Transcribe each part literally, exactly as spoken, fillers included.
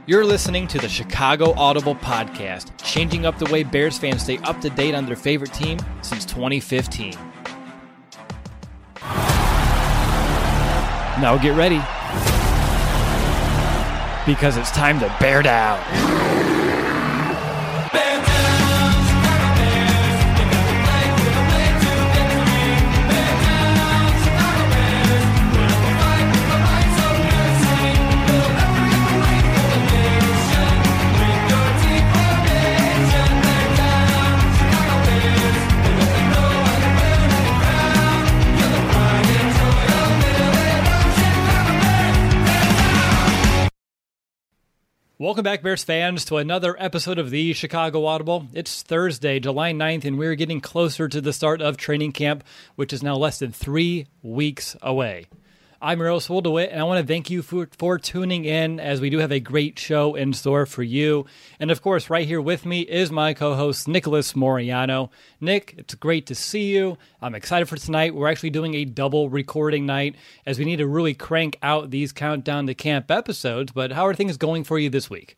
You're listening to the Chicago Audible Podcast, changing up the way Bears fans stay up to date on their favorite team since twenty fifteen. Now get ready, because it's time to bear down. Welcome back, Bears fans, to another episode of the Chicago Audible. It's Thursday, July ninth, and we're getting closer to the start of training camp, which is now less than three weeks away. I'm Eros Woldewit, and I want to thank you for, for tuning in, as we do have a great show in store for you. And of course, right here with me is my co-host, Nicholas Moriano. Nick, it's great to see you. I'm excited for tonight. We're actually doing a double recording night, as we need to really crank out these Countdown to Camp episodes. But how are things going for you this week?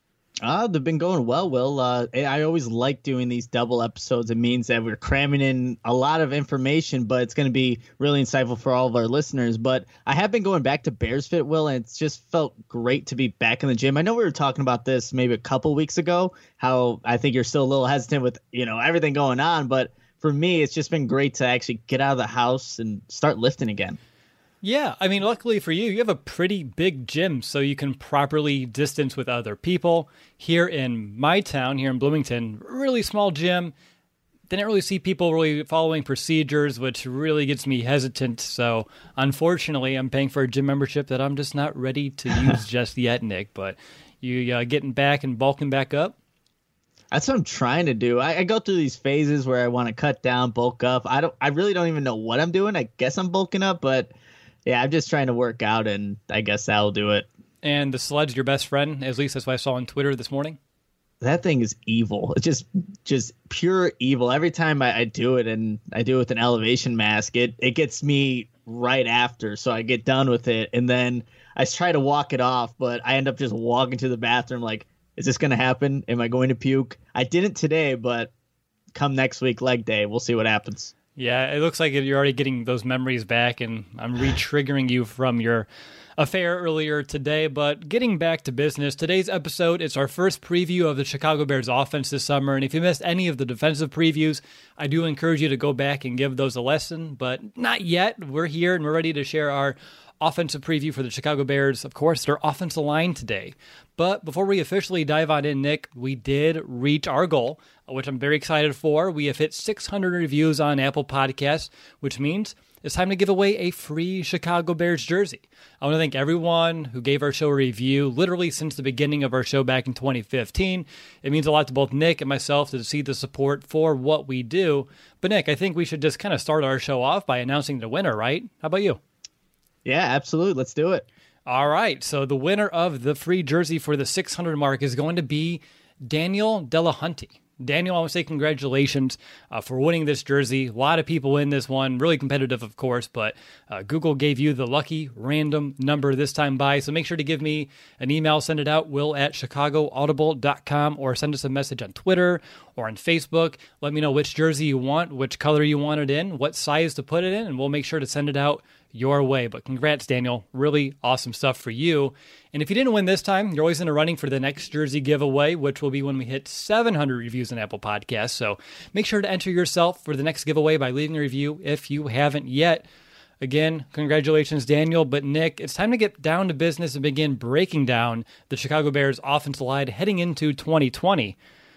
Uh, they've been going well, Will. Uh, I always like doing these double episodes. It means that we're cramming in a lot of information, but it's going to be really insightful for all of our listeners. But I have been going back to Bears Fit, Will, and it's just felt great to be back in the gym. I know we were talking about this maybe a couple weeks ago, how I think you're still a little hesitant with, you know, everything going on. But for me, it's just been great to actually get out of the house and start lifting again. Yeah, I mean, luckily for you, you have a pretty big gym, so you can properly distance with other people. Here in my town, here in Bloomington, really small gym. Didn't really see people really following procedures, which really gets me hesitant. So, unfortunately, I'm paying for a gym membership that I'm just not ready to use just yet, Nick. But you uh, getting back and bulking back up? That's what I'm trying to do. I, I go through these phases where I want to cut down, bulk up. I don't. I really don't even know what I'm doing. I guess I'm bulking up, but yeah, I'm just trying to work out, and I guess that'll do it. And the sled's your best friend, at least that's what I saw on Twitter this morning. That thing is evil. It's just just pure evil. Every time I, I do it, and I do it with an elevation mask, it, it gets me right after. So I get done with it, and then I try to walk it off, but I end up just walking to the bathroom like, is this going to happen? Am I going to puke? I didn't today, but come next week, leg day, we'll see what happens. Yeah, it looks like you're already getting those memories back, and I'm re-triggering you from your affair earlier today. But getting back to business, today's episode, it's our first preview of the Chicago Bears offense this summer. And if you missed any of the defensive previews, I do encourage you to go back and give those a lesson. But not yet. We're here, and we're ready to share our offensive preview for the Chicago Bears. Of course, their offensive line today. But before we officially dive on in, Nick, we did reach our goal, which I'm very excited for. We have hit six hundred reviews on Apple Podcasts, which means it's time to give away a free Chicago Bears jersey. I want to thank everyone who gave our show a review, literally since the beginning of our show back in twenty fifteen. It means a lot to both Nick and myself to see the support for what we do. But Nick, I think we should just kind of start our show off by announcing the winner, right? How about you? Yeah, absolutely. Let's do it. All right. So the winner of the free jersey for the six hundred mark is going to be Daniel Delahunty. Daniel, I want to say congratulations uh, for winning this jersey. A lot of people in this one, really competitive, of course, but uh, Google gave you the lucky random number this time by. So make sure to give me an email, send it out, will at chicago audible dot com, or send us a message on Twitter or on Facebook. Let me know which jersey you want, which color you want it in, what size to put it in, and we'll make sure to send it out your way. But congrats, Daniel. Really awesome stuff for you. And if you didn't win this time, you're always in the running for the next jersey giveaway, which will be when we hit seven hundred reviews on Apple Podcasts. So make sure to enter yourself for the next giveaway by leaving a review if you haven't yet. Again, congratulations, Daniel. But Nick, it's time to get down to business and begin breaking down the Chicago Bears offensive line heading into twenty twenty.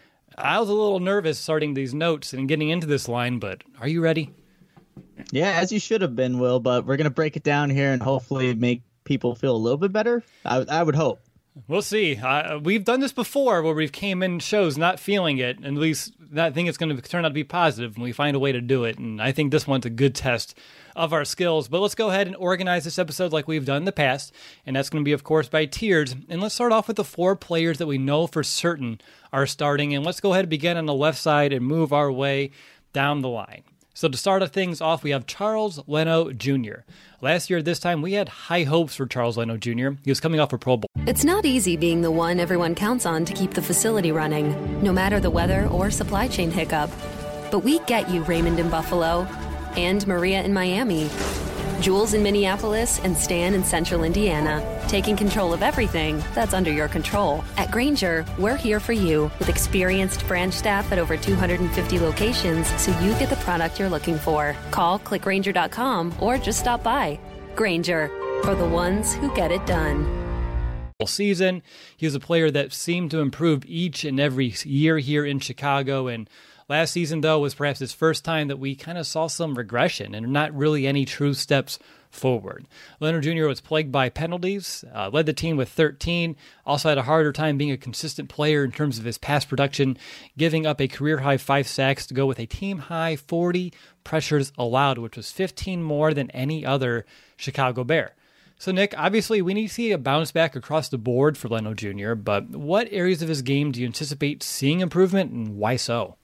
I was a little nervous starting these notes and getting into this line, but are you ready? Yeah, as you should have been, Will, but we're going to break it down here and hopefully make people feel a little bit better. I, I would hope. We'll see. Uh, we've done this before where we've came in shows not feeling it, and at least I think it's going to turn out to be positive, and we find a way to do it. And I think this one's a good test of our skills. But let's go ahead and organize this episode like we've done in the past, and that's going to be, of course, by tiers. And let's start off with the four players that we know for certain are starting, and let's go ahead and begin on the left side and move our way down the line. So to start things off, we have Charles Leno Junior Last year at this time, we had high hopes for Charles Leno Junior He was coming off a Pro Bowl. It's not easy being the one everyone counts on to keep the facility running, no matter the weather or supply chain hiccup. But we get you, Raymond in Buffalo, and Maria in Miami, Jules in Minneapolis, and Stan in Central Indiana, taking control of everything that's under your control. At Grainger, we're here for you with experienced branch staff at over two hundred fifty locations so you get the product you're looking for. Call click grainger dot com or just stop by. Grainger, for the ones who get it done. Season, he was a player that seemed to improve each and every year here in Chicago, and last season, though, was perhaps his first time that we kind of saw some regression and not really any true steps forward. Leno Junior was plagued by penalties, uh, led the team with thirteen, also had a harder time being a consistent player in terms of his pass production, giving up a career-high five sacks to go with a team-high forty pressures allowed, which was fifteen more than any other Chicago Bear. So, Nick, obviously we need to see a bounce back across the board for Leno Junior, but what areas of his game do you anticipate seeing improvement, and why so?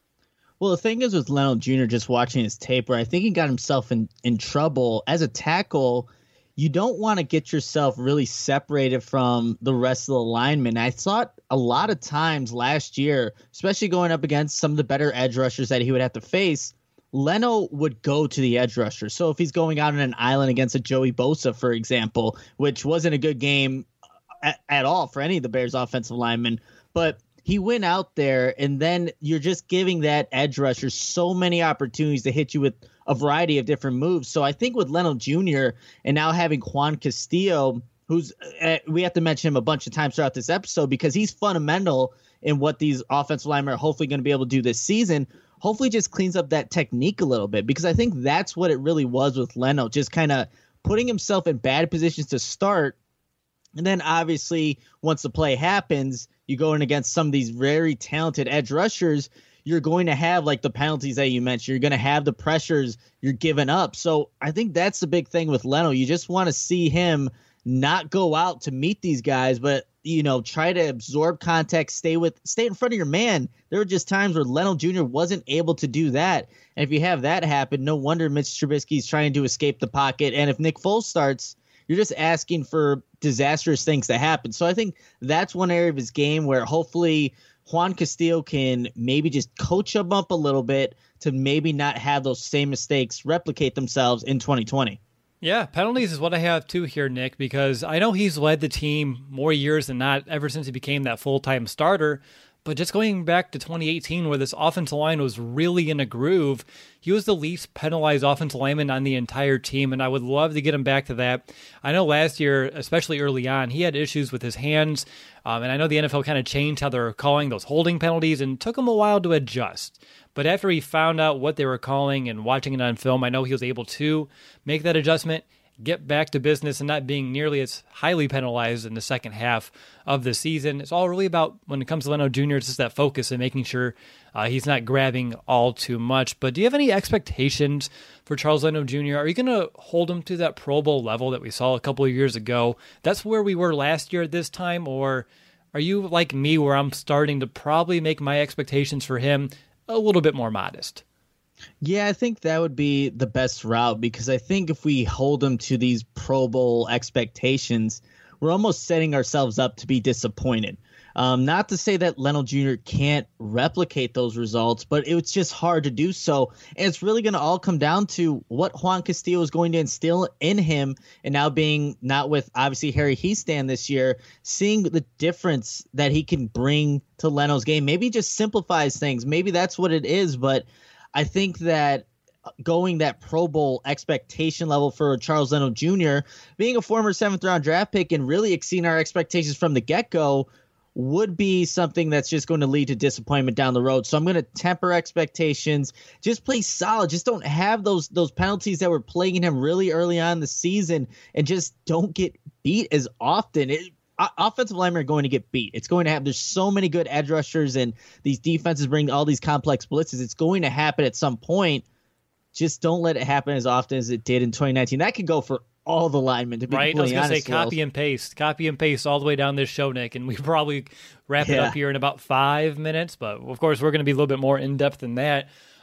Well, the thing is with Leno Junior, just watching his tape, where I think he got himself in, in trouble as a tackle, you don't want to get yourself really separated from the rest of the linemen. I thought a lot of times last year, especially going up against some of the better edge rushers that he would have to face, Leno would go to the edge rusher. So if he's going out on an island against a Joey Bosa, for example, which wasn't a good game at, at all for any of the Bears offensive linemen, but he went out there, and then you're just giving that edge rusher so many opportunities to hit you with a variety of different moves. So I think with Leno Junior and now having Juan Castillo, who's uh, we have to mention him a bunch of times throughout this episode because he's fundamental in what these offensive linemen are hopefully going to be able to do this season, hopefully just cleans up that technique a little bit, because I think that's what it really was with Leno, just kind of putting himself in bad positions to start. And then obviously once the play happens, you go in against some of these very talented edge rushers, you're going to have like the penalties that you mentioned. You're going to have the pressures you're giving up. So I think that's the big thing with Leno. You just want to see him not go out to meet these guys, but, you know, try to absorb contact, stay with, stay in front of your man. There were just times where Leno Junior wasn't able to do that. And if you have that happen, no wonder Mitch Trubisky's trying to escape the pocket. And if Nick Foles starts, you're just asking for disastrous things to happen. So I think that's one area of his game where hopefully Juan Castillo can maybe just coach him up a little bit to maybe not have those same mistakes replicate themselves in twenty twenty. Yeah, penalties is what I have too here, Nick, because I know he's led the team more years than not ever since he became that full-time starter. But just going back to twenty eighteen, where this offensive line was really in a groove, he was the least penalized offensive lineman on the entire team, and I would love to get him back to that. I know last year, especially early on, he had issues with his hands, um, and I know the N F L kind of changed how they were calling those holding penalties, and it took him a while to adjust. But after he found out what they were calling and watching it on film, I know he was able to make that adjustment, get back to business, and not being nearly as highly penalized in the second half of the season. It's all really about, when it comes to Leno Junior, it's just that focus and making sure uh, he's not grabbing all too much. But do you have any expectations for Charles Leno Junior? Are you going to hold him to that Pro Bowl level that we saw a couple of years ago? That's where we were last year at this time, or are you like me where I'm starting to probably make my expectations for him a little bit more modest? Yeah, I think that would be the best route, because I think if we hold them to these Pro Bowl expectations, we're almost setting ourselves up to be disappointed. Um, not to say that Leno Junior can't replicate those results, but it's just hard to do so. And it's really going to all come down to what Juan Castillo is going to instill in him. And now being not with obviously Harry Hiestand this year, seeing the difference that he can bring to Leno's game. Maybe just simplifies things. Maybe that's what it is. But I think that going that Pro Bowl expectation level for Charles Leno Junior, being a former seventh round draft pick and really exceeding our expectations from the get-go, would be something that's just going to lead to disappointment down the road. So I'm going to temper expectations, just play solid. Just don't have those those penalties that were plaguing him really early on in the season, and just don't get beat as often. It, offensive linemen are going to get beat. It's going to happen. There's so many good edge rushers, and these defenses bring all these complex blitzes. It's going to happen at some point. Just don't let it happen as often as it did in twenty nineteen. That could go for all the linemen, to be right. I was going to say copy Will. and paste, copy and paste all the way down this show, Nick, and we probably wrap it yeah. up here in about five minutes. But of course, we're going to be a little bit more in depth than that.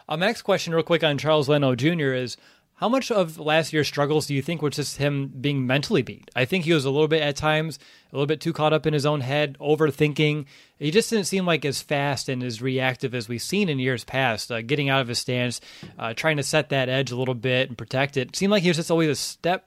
Uh, my next question, real quick, on Charles Leno Junior is, how much of last year's struggles do you think was just him being mentally beat? I think he was a little bit at times, a little bit too caught up in his own head, overthinking. He just didn't seem like as fast and as reactive as we've seen in years past, uh, getting out of his stance, uh, trying to set that edge a little bit and protect it. It seemed like he was just always a step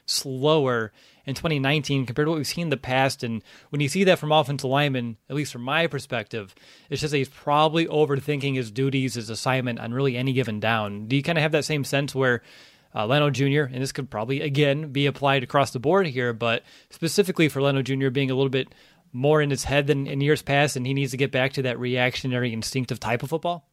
slower in twenty nineteen compared to what we've seen in the past. And when you see that from offensive linemen, at least from my perspective, it's just that he's probably overthinking his duties, his assignment on really any given down. Do you kind of have that same sense where uh, Leno Junior, and this could probably, again, be applied across the board here, but specifically for Leno Junior being a little bit more in his head than in years past, and he needs to get back to that reactionary, instinctive type of football?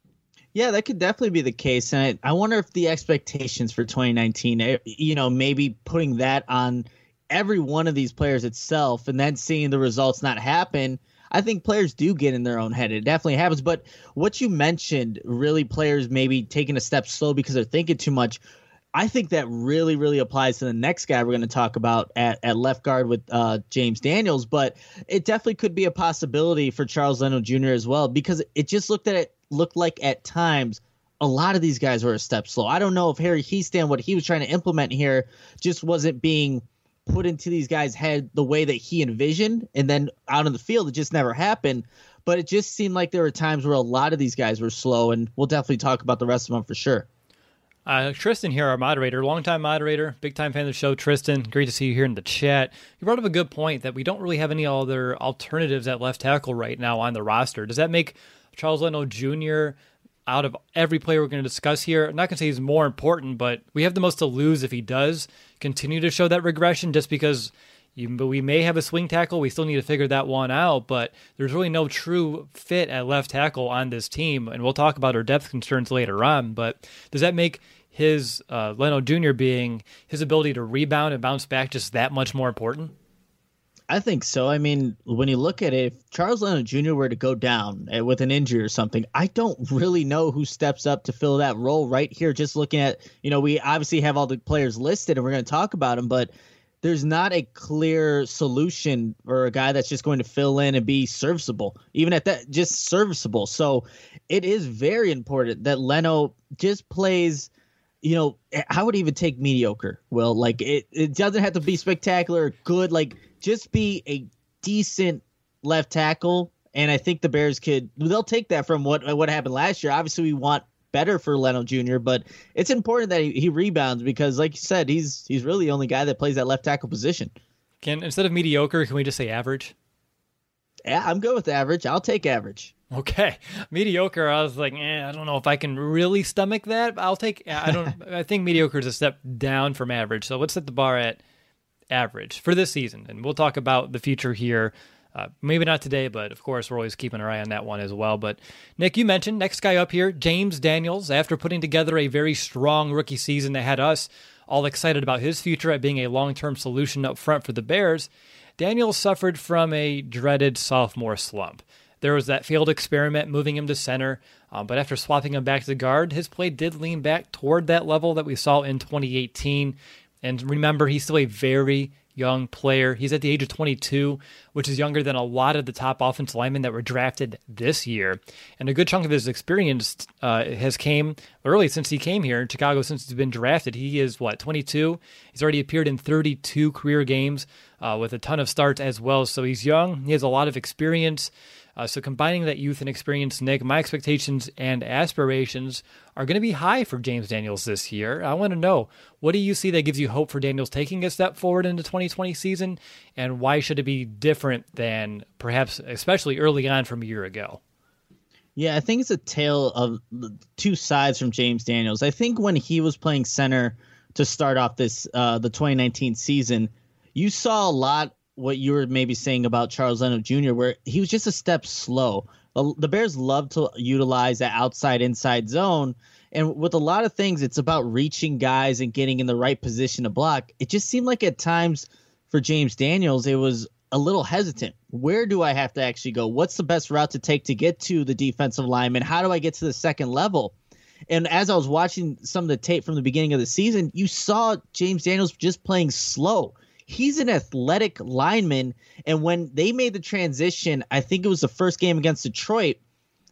Yeah, that could definitely be the case. And I, I wonder if the expectations for twenty nineteen, you know, maybe putting that on every one of these players itself and then seeing the results not happen, I think players do get in their own head. It definitely happens. But what you mentioned, really players maybe taking a step slow because they're thinking too much, I think that really, really applies to the next guy we're going to talk about at, at left guard with uh, James Daniels. But it definitely could be a possibility for Charles Leno Junior as well, because it just looked at it looked like at times a lot of these guys were a step slow. I don't know if Harry Hiestand, what he was trying to implement here, just wasn't being put into these guys' head the way that he envisioned, and then out in the field it just never happened. But it just seemed like there were times where a lot of these guys were slow, and we'll definitely talk about the rest of them for sure. Uh, Tristan here, our moderator, longtime moderator, big-time fan of the show. Tristan, great to see you here in the chat. You brought up a good point that we don't really have any other alternatives at left tackle right now on the roster. Does that make Charles Leno Junior, out of every player we're going to discuss here, I'm not going to say he's more important, but we have the most to lose if he does continue to show that regression, just because you, we may have a swing tackle. We still need to figure that one out, but there's really no true fit at left tackle on this team, and we'll talk about our depth concerns later on. But does that make his uh, Leno Junior being his ability to rebound and bounce back just that much more important? I think so. I mean, when you look at it, if Charles Leno Junior were to go down with an injury or something, I don't really know who steps up to fill that role right here. Just looking at, you know, we obviously have all the players listed and we're going to talk about them, but there's not a clear solution or a guy that's just going to fill in and be serviceable, even at that, just serviceable. So it is very important that Leno just plays, you know, I would even take mediocre. Well, like it, it doesn't have to be spectacular or good, like just be a decent left tackle. And I think the Bears could, they'll take that from what, what happened last year. Obviously we want better for Leno Junior, but it's important that he, he rebounds because like you said, he's, he's really the only guy that plays that left tackle position. Can, instead of mediocre, can we just say average? Yeah, I'm good with average. I'll take average. Okay. Mediocre, I was like, eh, I don't know if I can really stomach that. I'll take, I don't, I think mediocre is a step down from average. So let's set the bar at average for this season. And we'll talk about the future here. Uh, maybe not today, but of course, we're always keeping our eye on that one as well. But Nick, you mentioned next guy up here, James Daniels, after putting together a very strong rookie season that had us all excited about his future at being a long-term solution up front for the Bears. Daniels suffered from a dreaded sophomore slump. There was that failed experiment moving him to center, um, but after swapping him back to guard, his play did lean back toward that level that we saw in twenty eighteen. And remember, he's still a very young player. He's at the age of twenty-two, which is younger than a lot of the top offensive linemen that were drafted this year. And a good chunk of his experience uh, has came early since he came here in Chicago, since he's been drafted. He is, what, twenty-two? He's already appeared in thirty-two career games uh, with a ton of starts as well. So he's young. He has a lot of experience. Uh, so combining that youth and experience, Nick, my expectations and aspirations are going to be high for James Daniels this year. I want to know, what do you see that gives you hope for Daniels taking a step forward into twenty twenty season, and why should it be different than perhaps, especially early on from a year ago? Yeah, I think it's a tale of two sides from James Daniels. I think when he was playing center to start off this uh, the twenty nineteen season, you saw a lot what you were maybe saying about Charles Leno Junior, where he was just a step slow. The Bears love to utilize that outside-inside zone, and with a lot of things, it's about reaching guys and getting in the right position to block. It just seemed like at times for James Daniels, it was a little hesitant. Where do I have to actually go? What's the best route to take to get to the defensive lineman? How do I get to the second level? And as I was watching some of the tape from the beginning of the season, you saw James Daniels just playing slow. He's an athletic lineman, and when they made the transition, I think it was the first game against Detroit,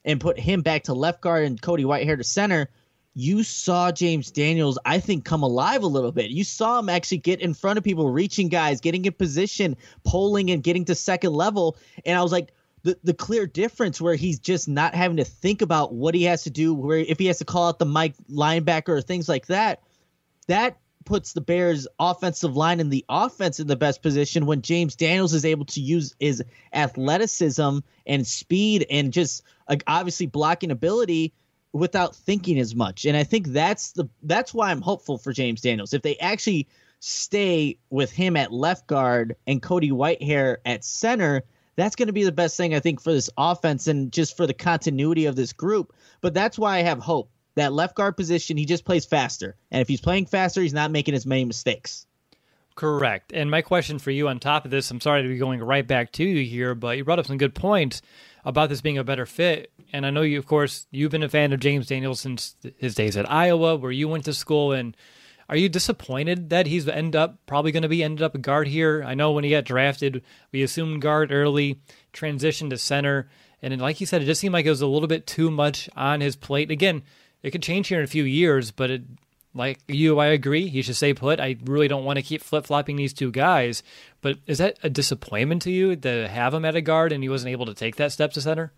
and put him back to left guard and Cody Whitehair to center, you saw James Daniels, I think, come alive a little bit. You saw him actually get in front of people, reaching guys, getting in position, polling and getting to second level. And I was like, the, the clear difference where he's just not having to think about what he has to do, where if he has to call out the Mike linebacker or things like that, that puts the Bears offensive line and the offense in the best position when James Daniels is able to use his athleticism and speed and just like, obviously blocking ability without thinking as much. And I think that's the that's why I'm hopeful for James Daniels. If they actually stay with him at left guard and Cody Whitehair at center, that's going to be the best thing, I think, for this offense and just for the continuity of this group. But that's why I have hope. That left guard position, he just plays faster. And if he's playing faster, he's not making as many mistakes. Correct. And my question for you on top of this, I'm sorry to be going right back to you here, but you brought up some good points about this being a better fit. And I know you, of course, you've been a fan of James Daniels since his days at Iowa, where you went to school. And are you disappointed that he's end up probably going to be ended up a guard here? I know when he got drafted, we assumed guard early, transitioned to center. And like you said, it just seemed like it was a little bit too much on his plate. Again, it could change here in a few years, but it, like you, I agree. He should stay put. I really don't want to keep flip-flopping these two guys. But is that a disappointment to you to have him at a guard and he wasn't able to take that step to center?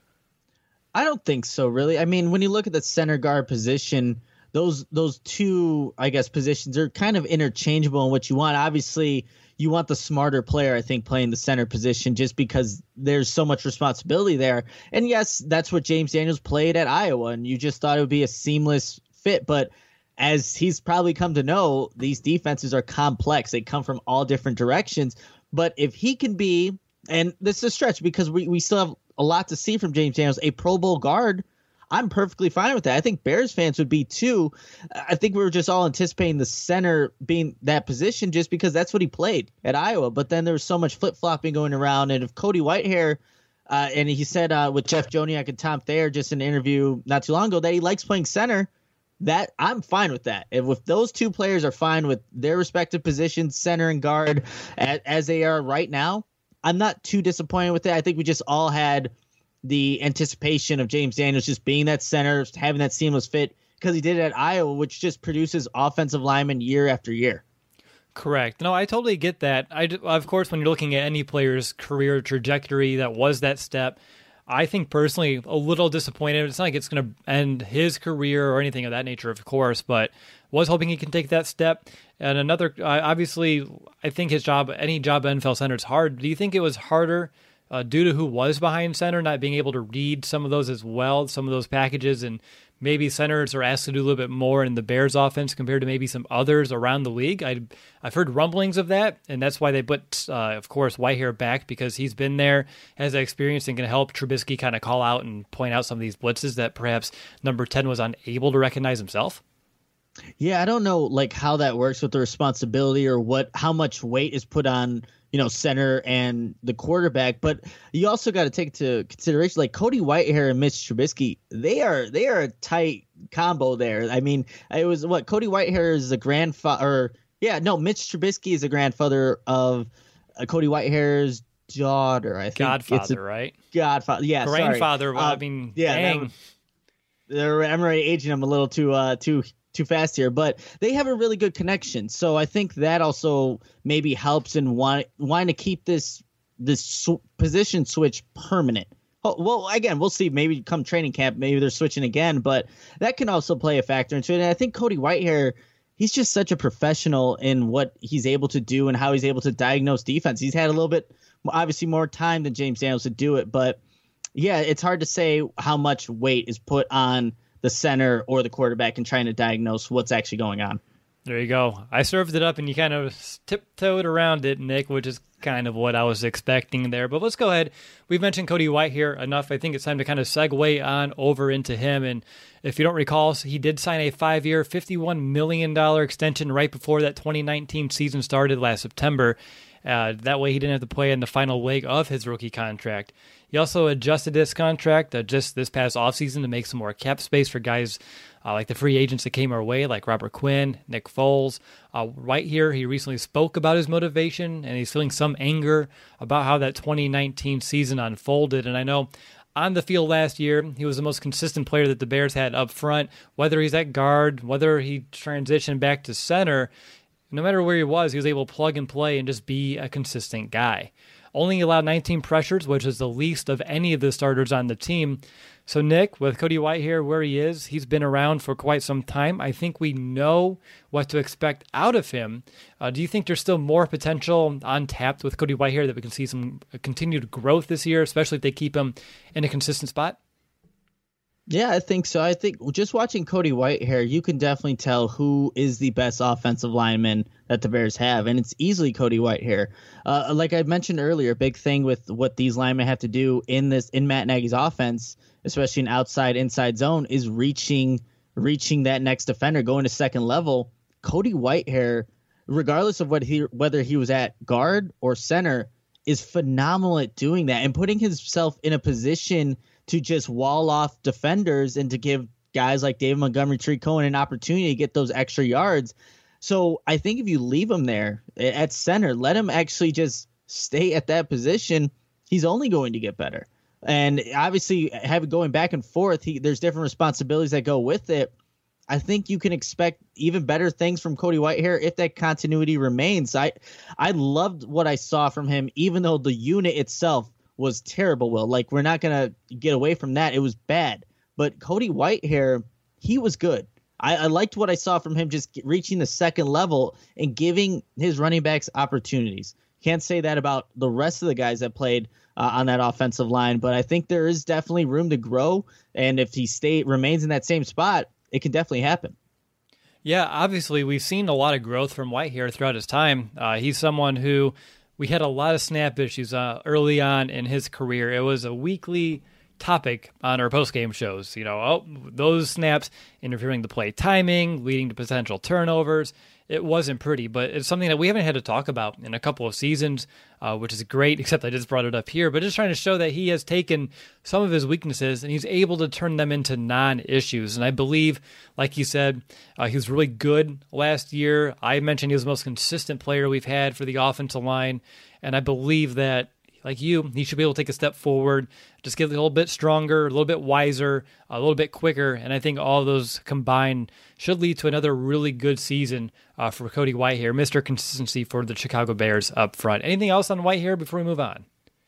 I don't think so, really. I mean, when you look at the center guard position, those those two, I guess, positions are kind of interchangeable in what you want. Obviously, you want the smarter player, I think, playing the center position just because there's so much responsibility there. And yes, that's what James Daniels played at Iowa, and you just thought it would be a seamless fit. But as he's probably come to know, these defenses are complex. They come from all different directions. But if he can be, and this is a stretch because we, we still have a lot to see from James Daniels, a Pro Bowl guard, I'm perfectly fine with that. I think Bears fans would be too. I think we were just all anticipating the center being that position just because that's what he played at Iowa. But then there was so much flip-flopping going around. And if Cody Whitehair, uh, and he said uh, with Jeff Joniak and Tom Thayer just in an interview not too long ago that he likes playing center, that I'm fine with that. If, if those two players are fine with their respective positions, center and guard, as, as they are right now, I'm not too disappointed with it. I think we just all had the anticipation of James Daniels just being that center, having that seamless fit because he did it at Iowa, which just produces offensive linemen year after year. Correct. No, I totally get that. I, of course, when you're looking at any player's career trajectory that was that step, I think personally a little disappointed. It's not like it's going to end his career or anything of that nature, of course, but was hoping he can take that step. And another, uh, obviously, I think his job, any job at N F L center is hard. Do you think it was harder Uh, due to who was behind center, not being able to read some of those as well, some of those packages, and maybe centers are asked to do a little bit more in the Bears offense compared to maybe some others around the league? I, I've heard rumblings of that, and that's why they put, uh, of course, Whitehair back, because he's been there, has that experience, and can help Trubisky kind of call out and point out some of these blitzes that perhaps number ten was unable to recognize himself. Yeah, I don't know like how that works with the responsibility or what how much weight is put on, you know, center and the quarterback, but you also got to take into consideration like Cody Whitehair and Mitch Trubisky. They are they are a tight combo there. I mean, it was what Cody Whitehair is a grandfather. Yeah, no, Mitch Trubisky is a grandfather of uh, Cody Whitehair's daughter. I think Godfather, it's a, right? Godfather, yeah, grandfather. Well, uh, I mean, yeah, dang. Was, I'm already aging them a little too uh, too. too fast here, but they have a really good connection. So I think that also maybe helps in want, wanting to keep this this sw- position switch permanent. Oh, well, again, we'll see. Maybe come training camp, maybe they're switching again, but that can also play a factor into it. And I think Cody Whitehair, he's just such a professional in what he's able to do and how he's able to diagnose defense. He's had a little bit, obviously, more time than James Daniels to do it, but yeah, it's hard to say how much weight is put on the center or the quarterback and trying to diagnose what's actually going on. There you go. I served it up and you kind of tiptoed around it, Nick, which is kind of what I was expecting there. But let's go ahead. We've mentioned Cody Whitehair enough. I think it's time to kind of segue on over into him. And if you don't recall, he did sign a five-year, fifty-one million dollars extension right before that twenty nineteen season started last September. Uh, that way he didn't have to play in the final leg of his rookie contract. He also adjusted this contract uh, just this past offseason to make some more cap space for guys uh, like the free agents that came our way, like Robert Quinn, Nick Foles. Uh, right here, he recently spoke about his motivation, and he's feeling some anger about how that twenty nineteen season unfolded. And I know on the field last year. He was the most consistent player that the Bears had up front, whether he's at guard, whether he transitioned back to center. No matter where he was, he was able to plug and play and just be a consistent guy. Only allowed nineteen pressures, which is the least of any of the starters on the team. So Nick, with Cody Whitehair where he is, he's been around for quite some time. I think we know what to expect out of him. Uh, do you think there's still more potential untapped with Cody Whitehair that we can see some continued growth this year, especially if they keep him in a consistent spot? Yeah, I think so. I think just watching Cody Whitehair, you can definitely tell who is the best offensive lineman that the Bears have, and it's easily Cody Whitehair. Uh, like I mentioned earlier, a big thing with what these linemen have to do in this in Matt Nagy's offense, especially in outside inside zone, is reaching reaching that next defender, going to second level. Cody Whitehair, regardless of what he whether he was at guard or center, is phenomenal at doing that and putting himself in a position to just wall off defenders and to give guys like David Montgomery, Tariq Cohen an opportunity to get those extra yards. So I think if you leave him there at center, let him actually just stay at that position, he's only going to get better. And obviously, having going back and forth, he, there's different responsibilities that go with it. I think you can expect even better things from Cody Whitehair if that continuity remains. I I loved what I saw from him, even though the unit itself was terrible. Will, like, we're not going to get away from that. It was bad. But Cody Whitehair, he was good. I, I liked what I saw from him just reaching the second level and giving his running backs opportunities. Can't say that about the rest of the guys that played uh, on that offensive line, but I think there is definitely room to grow. And if he stay remains in that same spot, it can definitely happen. Yeah, obviously, we've seen a lot of growth from Whitehair throughout his time. Uh, he's someone who we had a lot of snap issues uh, early on in his career. It was a weekly topic on our post-game shows. You know, oh, those snaps interfering the play timing, leading to potential turnovers. It wasn't pretty, but it's something that we haven't had to talk about in a couple of seasons, uh, which is great, except I just brought it up here. But just trying to show that he has taken some of his weaknesses and he's able to turn them into non-issues. And I believe, like you said, uh, he was really good last year. I mentioned he was the most consistent player we've had for the offensive line. And I believe that, like you, he should be able to take a step forward, just get a little bit stronger, a little bit wiser, a little bit quicker. And I think all of those combined should lead to another really good season uh, for Cody Whitehair, Mister Consistency for the Chicago Bears up front. Anything else on Whitehair before we move on?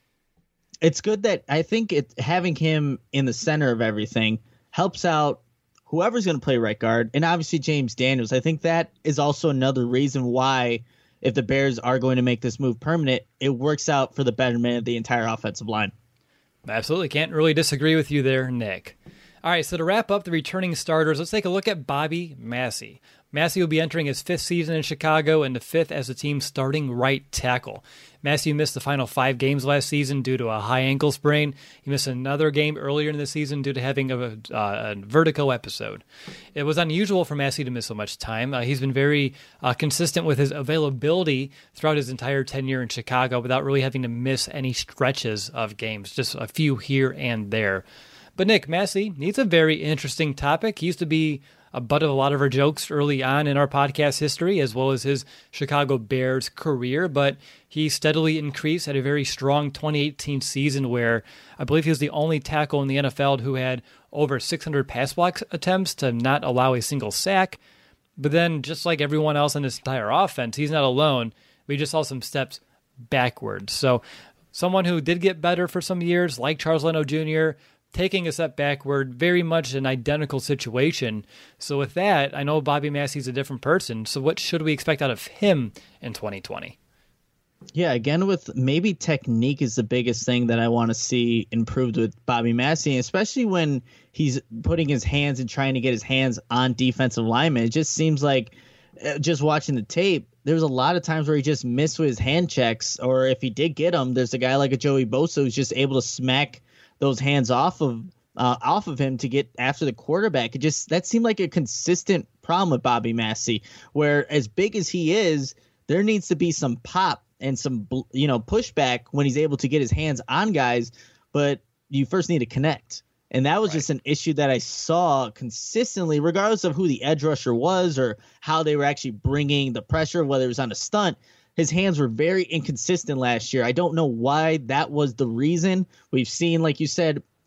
It's good that I think it having him in the center of everything helps out whoever's going to play right guard, and obviously James Daniels. I think that is also another reason why, if the Bears are going to make this move permanent, it works out for the betterment of the entire offensive line. Absolutely. Can't really disagree with you there, Nick. All right, so to wrap up the returning starters, let's take a look at Bobby Massie. Massie will be entering his fifth season in Chicago and the fifth as the team's starting right tackle. Massie missed the final five games last season due to a high ankle sprain. He missed another game earlier in the season due to having a, uh, a vertigo episode. It was unusual for Massie to miss so much time. Uh, he's been very uh, consistent with his availability throughout his entire tenure in Chicago without really having to miss any stretches of games, just a few here and there. But Nick, Massie, he's a very interesting topic. He used to be a butt of a lot of our jokes early on in our podcast history, as well as his Chicago Bears career, but he steadily increased at a very strong twenty eighteen season where I believe he was the only tackle in the N F L who had over six hundred pass block attempts to not allow a single sack. But then, just like everyone else in this entire offense, he's not alone. We just saw some steps backwards. So someone who did get better for some years, like Charles Leno Junior, taking a step backward, very much an identical situation. So with that, I know Bobby Massie's a different person. So what should we expect out of him in twenty twenty? Yeah, again, with maybe technique is the biggest thing that I want to see improved with Bobby Massie, especially when he's putting his hands and trying to get his hands on defensive linemen. It just seems like, just watching the tape, there's a lot of times where he just missed with his hand checks, or if he did get them, there's a guy like a Joey Bosa who's just able to smack those hands off of uh, off of him to get after the quarterback. It just that seemed like a consistent problem with Bobby Massie, where as big as he is, there needs to be some pop and some you know pushback when he's able to get his hands on guys, but you first need to connect. And that was right. just an issue that I saw consistently, regardless of who the edge rusher was or how they were actually bringing the pressure, whether it was on a stunt. His hands were very inconsistent last year. I don't know why that was the reason. We've seen, like you said,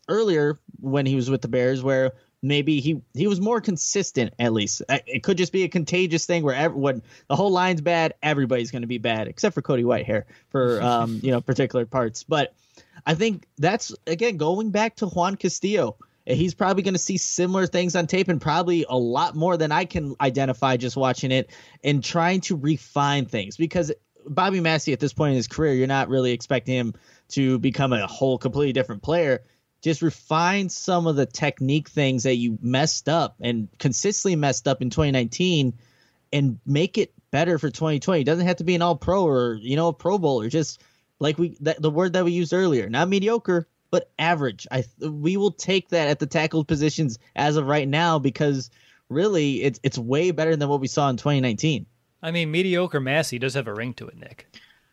earlier when he was with the Bears, where maybe he, he was more consistent, at least. It could just be a contagious thing where every, when the whole line's bad, everybody's going to be bad, except for Cody Whitehair for um, you know particular parts. But I think that's, again, going back to Juan Castillo. He's probably going to see similar things on tape and probably a lot more than I can identify just watching it and trying to refine things, because Bobby Massie at this point in his career, you're not really expecting him to become a whole completely different player. Just refine some of the technique things that you messed up and consistently messed up in twenty nineteen and make it better for twenty twenty. It doesn't have to be an all pro or, you know, a Pro Bowler. Just like we, that, the word that we used earlier, not mediocre, but average. I we will take that at the tackle positions as of right now, because really it's it's way better than what we saw in twenty nineteen. I mean, mediocre Massie does have a ring to it, Nick.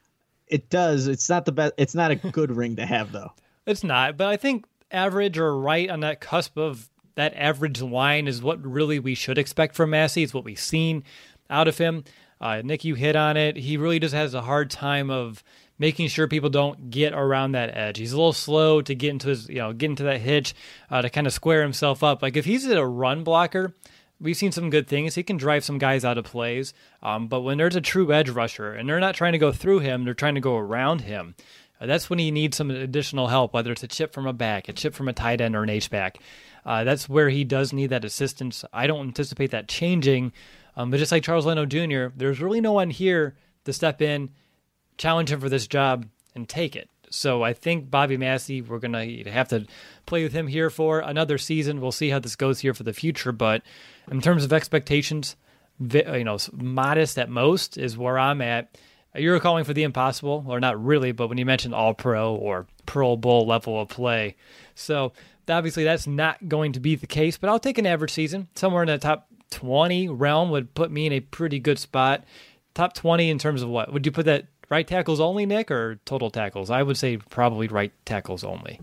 It does. It's not the best. It's not a good ring to have, though. It's not, but I think average or right on that cusp of that average line is what really we should expect from Massie. It's what we've seen out of him. Uh, Nick, you hit on it. He really just has a hard time of making sure people don't get around that edge. He's a little slow to get into his, you know, get into that hitch uh, to kind of square himself up. Like if he's a run blocker, we've seen some good things. He can drive some guys out of plays. Um, but when there's a true edge rusher and they're not trying to go through him, they're trying to go around him. Uh, that's when he needs some additional help, whether it's a chip from a back, a chip from a tight end, or an H-back. Uh, that's where he does need that assistance. I don't anticipate that changing. Um, but just like Charles Leno Junior, there's really no one here to step in, challenge him for this job, and take it. So I think Bobby Massie, we're going to have to play with him here for another season. We'll see how this goes here for the future. But in terms of expectations, you know, modest at most is where I'm at. You're calling for the impossible, or not really, but when you mentioned all-pro or Pro Bowl level of play. So obviously that's not going to be the case, but I'll take an average season. Somewhere in the top twenty realm would put me in a pretty good spot. Top twenty in terms of what? Would you put that right tackles only, Nick, or total tackles? I would say probably right tackles only.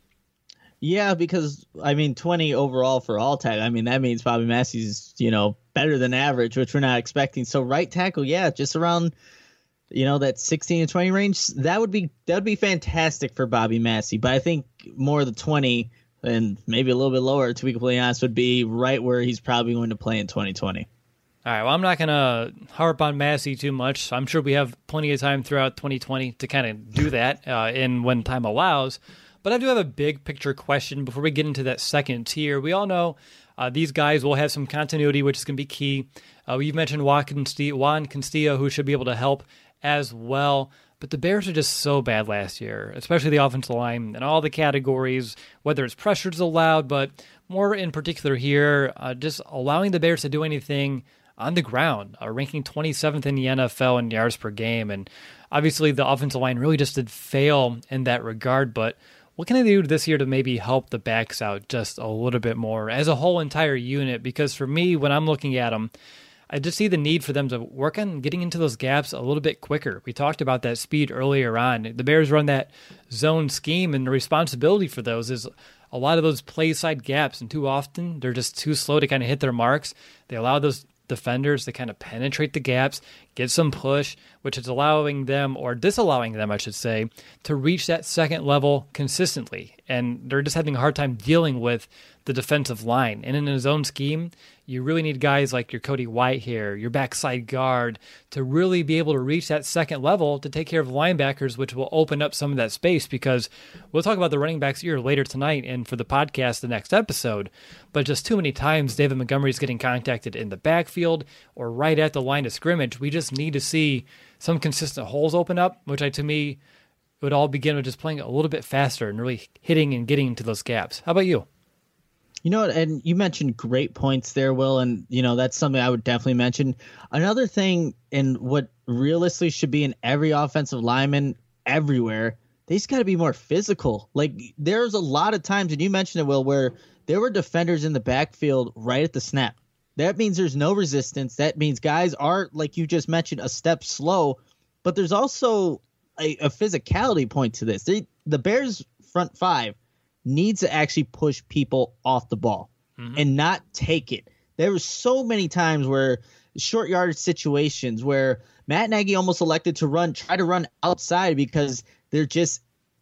Yeah, because, I mean, twenty overall for all tackle. I mean, that means Bobby Massie's, you know, better than average, which we're not expecting. So right tackle, yeah, just around, you know, that sixteen to twenty range, that would be that would be fantastic for Bobby Massie. But I think more the twenty and maybe a little bit lower, to be completely honest, would be right where he's probably going to play in twenty twenty. All right, well, I'm not going to harp on Massie too much. I'm sure we have plenty of time throughout twenty twenty to kind of do that uh, in when time allows. But I do have a big picture question before we get into that second tier. We all know uh, these guys will have some continuity, which is going to be key. Uh, you've mentioned Juan Castillo, Juan Castillo, who should be able to help as well. But the Bears are just so bad last year, especially the offensive line and all the categories, whether it's pressures allowed, but more in particular here, uh, just allowing the Bears to do anything on the ground, uh, ranking twenty-seventh in the N F L in yards per game. And obviously the offensive line really just did fail in that regard. But what can they do this year to maybe help the backs out just a little bit more as a whole entire unit? Because for me, when I'm looking at them, I just see the need for them to work on getting into those gaps a little bit quicker. We talked about that speed earlier on. The Bears run that zone scheme, and the responsibility for those is a lot of those play side gaps, and too often they're just too slow to kind of hit their marks. They allow those defenders to kind of penetrate the gaps, get some push, which is allowing them, or disallowing them, I should say, to reach that second level consistently. And they're just having a hard time dealing with the defensive line. And in a zone scheme, you really need guys like your Cody Whitehair, your backside guard, to really be able to reach that second level to take care of linebackers, which will open up some of that space, because we'll talk about the running backs here later tonight and for the podcast the next episode. But just too many times David Montgomery is getting contacted in the backfield or right at the line of scrimmage. We just need to see some consistent holes open up, which I, to me, it would all begin with just playing a little bit faster and really hitting and getting into those gaps. How about you? You know, and you mentioned great points there, Will, and, you know, that's something I would definitely mention. Another thing, and what realistically should be in every offensive lineman everywhere, they just got to be more physical. Like, there's a lot of times, and you mentioned it, Will, where there were defenders in the backfield right at the snap. That means there's no resistance. That means guys are, like you just mentioned, a step slow. But there's also a, a physicality point to this. They, the Bears' front five needs to actually push people off the ball mm-hmm. and not take it. There were so many times where short yardage situations where Matt Nagy almost elected to run, try to run outside because they're just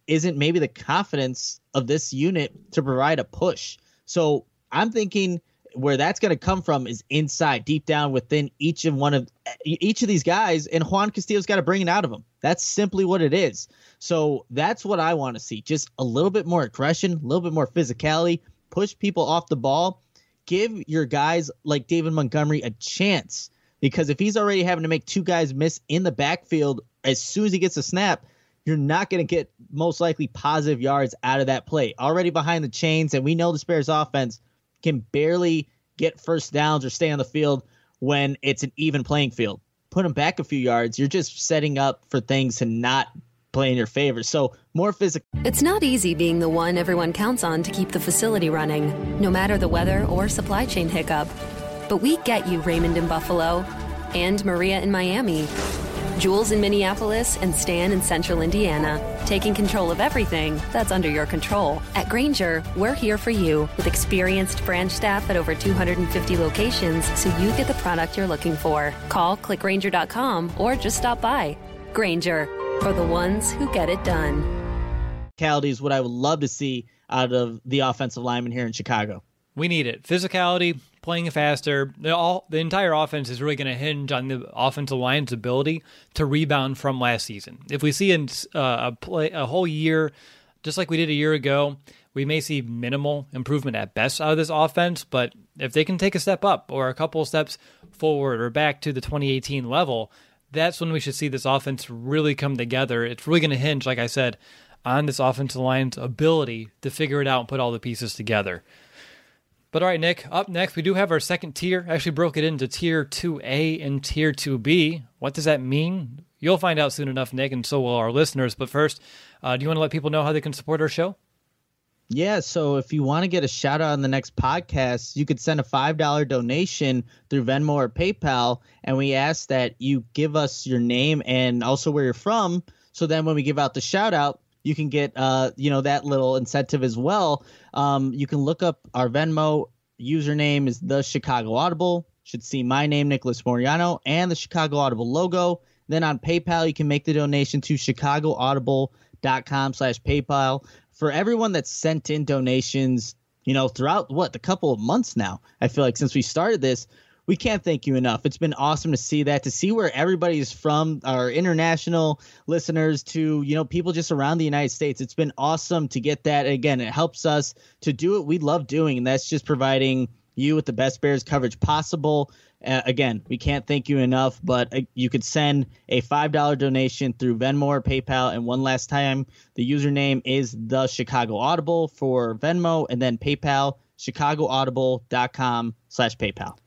isn't maybe the confidence of this unit to provide a push. So I'm thinking where that's going to come from is inside, deep down within each and one of each of these guys, and Juan Castillo's got to bring it out of them. That's simply what it is. So that's what I want to see. Just a little bit more aggression, a little bit more physicality, push people off the ball, give your guys like David Montgomery a chance, because if he's already having to make two guys miss in the backfield as soon as he gets a snap, you're not going to get most likely positive yards out of that play. Already behind the chains, and we know the Bears offense can barely get first downs or stay on the field when it's an even playing field. Put them back a few yards, you're just setting up for things to not play in your favor. So more physical. It's not easy being the one everyone counts on to keep the facility running, no matter the weather or supply chain hiccup. But we get you, Raymond in Buffalo, and Maria in Miami, Jules in Minneapolis, and Stan in Central Indiana, taking control of everything that's under your control. At Grainger, we're here for you with experienced branch staff at over two hundred fifty locations, so you get the product you're looking for. Call, click Grainger dot com, or just stop by. Grainger, for the ones who get it done. Physicality is what I would love to see out of the offensive lineman here in Chicago. We need it. Physicality, playing faster. The, all, the entire offense is really going to hinge on the offensive line's ability to rebound from last season. If we see in, uh, a, play, a whole year, just like we did a year ago, we may see minimal improvement at best out of this offense. But if they can take a step up or a couple of steps forward or back to the twenty eighteen level, that's when we should see this offense really come together. It's really going to hinge, like I said, on this offensive line's ability to figure it out and put all the pieces together. But all right, Nick, up next, we do have our second tier. I actually broke it into Tier two A and Tier two B. What does that mean? You'll find out soon enough, Nick, and so will our listeners. But first, uh, do you want to let people know how they can support our show? Yeah, so if you want to get a shout out on the next podcast, you could send a five dollars donation through Venmo or PayPal, and we ask that you give us your name and also where you're from, so then when we give out the shout out, you can get uh, you know, that little incentive as well. Um, you can look up our Venmo username is the Chicago Audible. Should see my name, Nicholas Moriano, and the Chicago Audible logo. Then on PayPal, you can make the donation to chicagoaudible.com slash PayPal. For everyone that's sent in donations, you know, throughout what, the couple of months now, I feel like since we started this, we can't thank you enough. It's been awesome to see that, to see where everybody is from, our international listeners to, you know, people just around the United States. It's been awesome to get that. Again, it helps us to do what we love doing, and that's just providing you with the best Bears coverage possible. Uh, again, we can't thank you enough, but uh, you could send a five dollars donation through Venmo or PayPal. And one last time, the username is the Chicago Audible for Venmo, and then PayPal, chicagoaudible.com slash PayPal.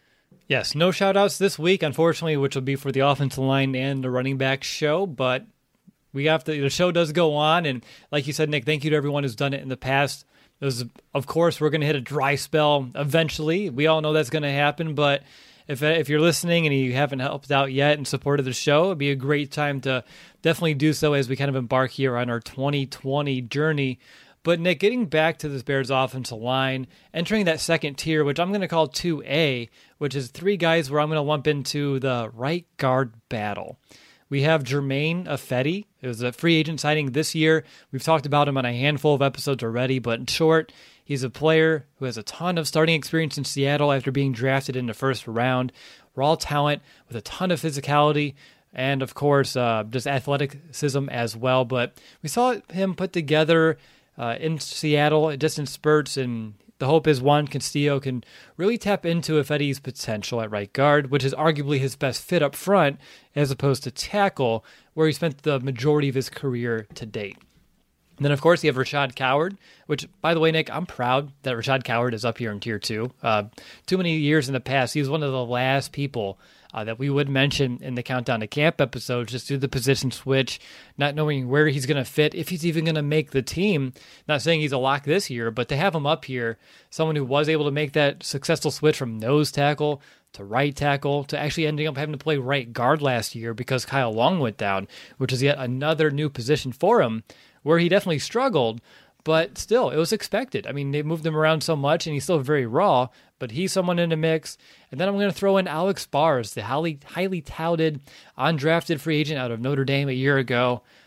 Yes, no shout-outs this week, unfortunately, which will be for the offensive line and the running back show, but we have to, the show does go on, and like you said, Nick, thank you to everyone who's done it in the past. There's, of course, we're going to hit a dry spell eventually. We all know that's going to happen, but if if you're listening and you haven't helped out yet and supported the show, it'd be a great time to definitely do so as we kind of embark here on our twenty twenty journey. But, Nick, getting back to this Bears offensive line, entering that second tier, which I'm going to call two A, which is three guys where I'm going to lump into the right guard battle. We have Germain Ifedi. It was a free agent signing this year. We've talked about him on a handful of episodes already, but in short, he's a player who has a ton of starting experience in Seattle after being drafted in the first round. Raw talent with a ton of physicality and, of course, uh, just athleticism as well. But we saw him put together Uh, in Seattle, just in spurts, and the hope is Juan Castillo can really tap into Ifedi's potential at right guard, which is arguably his best fit up front, as opposed to tackle, where he spent the majority of his career to date. And then, of course, you have Rashad Coward, which, by the way, Nick, I'm proud that Rashad Coward is up here in Tier two. Uh, too many years in the past, he was one of the last people uh, that we would mention in the Countdown to Camp episode, just due to the position switch, not knowing where he's going to fit, if he's even going to make the team. Not saying he's a lock this year, but to have him up here, someone who was able to make that successful switch from nose tackle to right tackle, to actually ending up having to play right guard last year because Kyle Long went down, which is yet another new position for him, where he definitely struggled, but still, it was expected. I mean, they moved him around so much, and he's still very raw, but he's someone in the mix. And then I'm going to throw in Alex Bars, the highly, highly touted, undrafted free agent out of Notre Dame a year ago.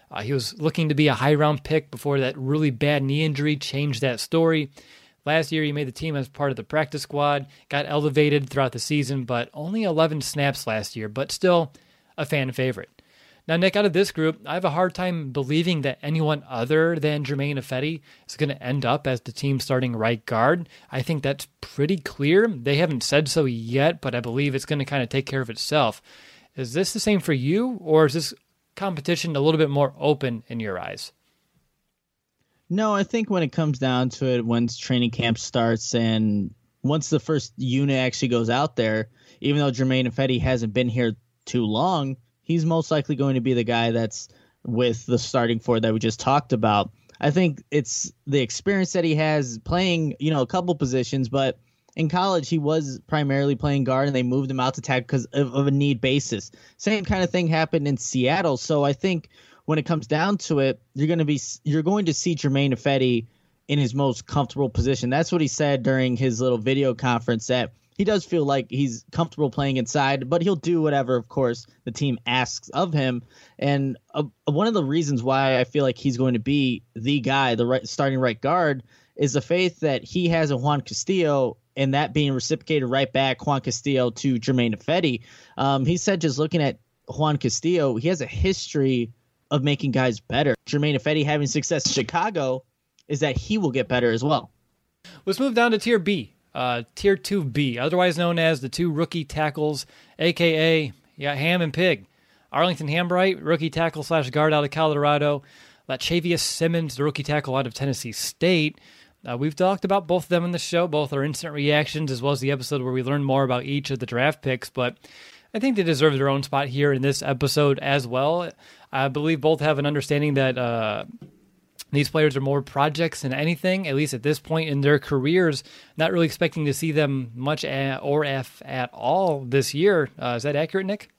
Uh, he was looking to be a high-round pick before that really bad knee injury changed that story. Last year, he made the team as part of the practice squad, got elevated throughout the season, but only eleven snaps last year, but still a fan favorite. Now, Nick, out of this group, I have a hard time believing that anyone other than Germain Ifedi is going to end up as the team's starting right guard. I think that's pretty clear. They haven't said so yet, but I believe it's going to kind of take care of itself. Is this the same for you, or is this competition a little bit more open in your eyes? No, I think when it comes down to it, once training camp starts and once the first unit actually goes out there, even though Germain Ifedi hasn't been here too long, he's most likely going to be the guy that's with the starting four that we just talked about. I think it's the experience that he has playing, you know, a couple positions, but in college he was primarily playing guard and they moved him out to tackle because of, of a need basis. Same kind of thing happened in Seattle. So I think when it comes down to it, you're going to be you're going to see Germain Ifedi in his most comfortable position. That's what he said during his little video conference, that he does feel like he's comfortable playing inside, but he'll do whatever, of course, the team asks of him. And uh, one of the reasons why I feel like he's going to be the guy, the right starting right guard, is the faith that he has in Juan Castillo, and that being reciprocated right back, Juan Castillo to Germain Ifedi. Um, he said just looking at Juan Castillo, he has a history of making guys better. Germain Ifedi having success in Chicago is that he will get better as well. Let's move down to Tier B. Uh, Tier two B, otherwise known as the two rookie tackles, a k a. Yeah, Ham and Pig. Arlington Hambright, rookie tackle slash guard out of Colorado. Lachavious Simmons, the rookie tackle out of Tennessee State. Uh, we've talked about both of them in the show, both our instant reactions as well as the episode where we learn more about each of the draft picks, but I think they deserve their own spot here in this episode as well. I believe both have an understanding that uh, these players are more projects than anything, at least at this point in their careers. Not really expecting to see them much at, or if at all this year. Uh, is that accurate, Nick?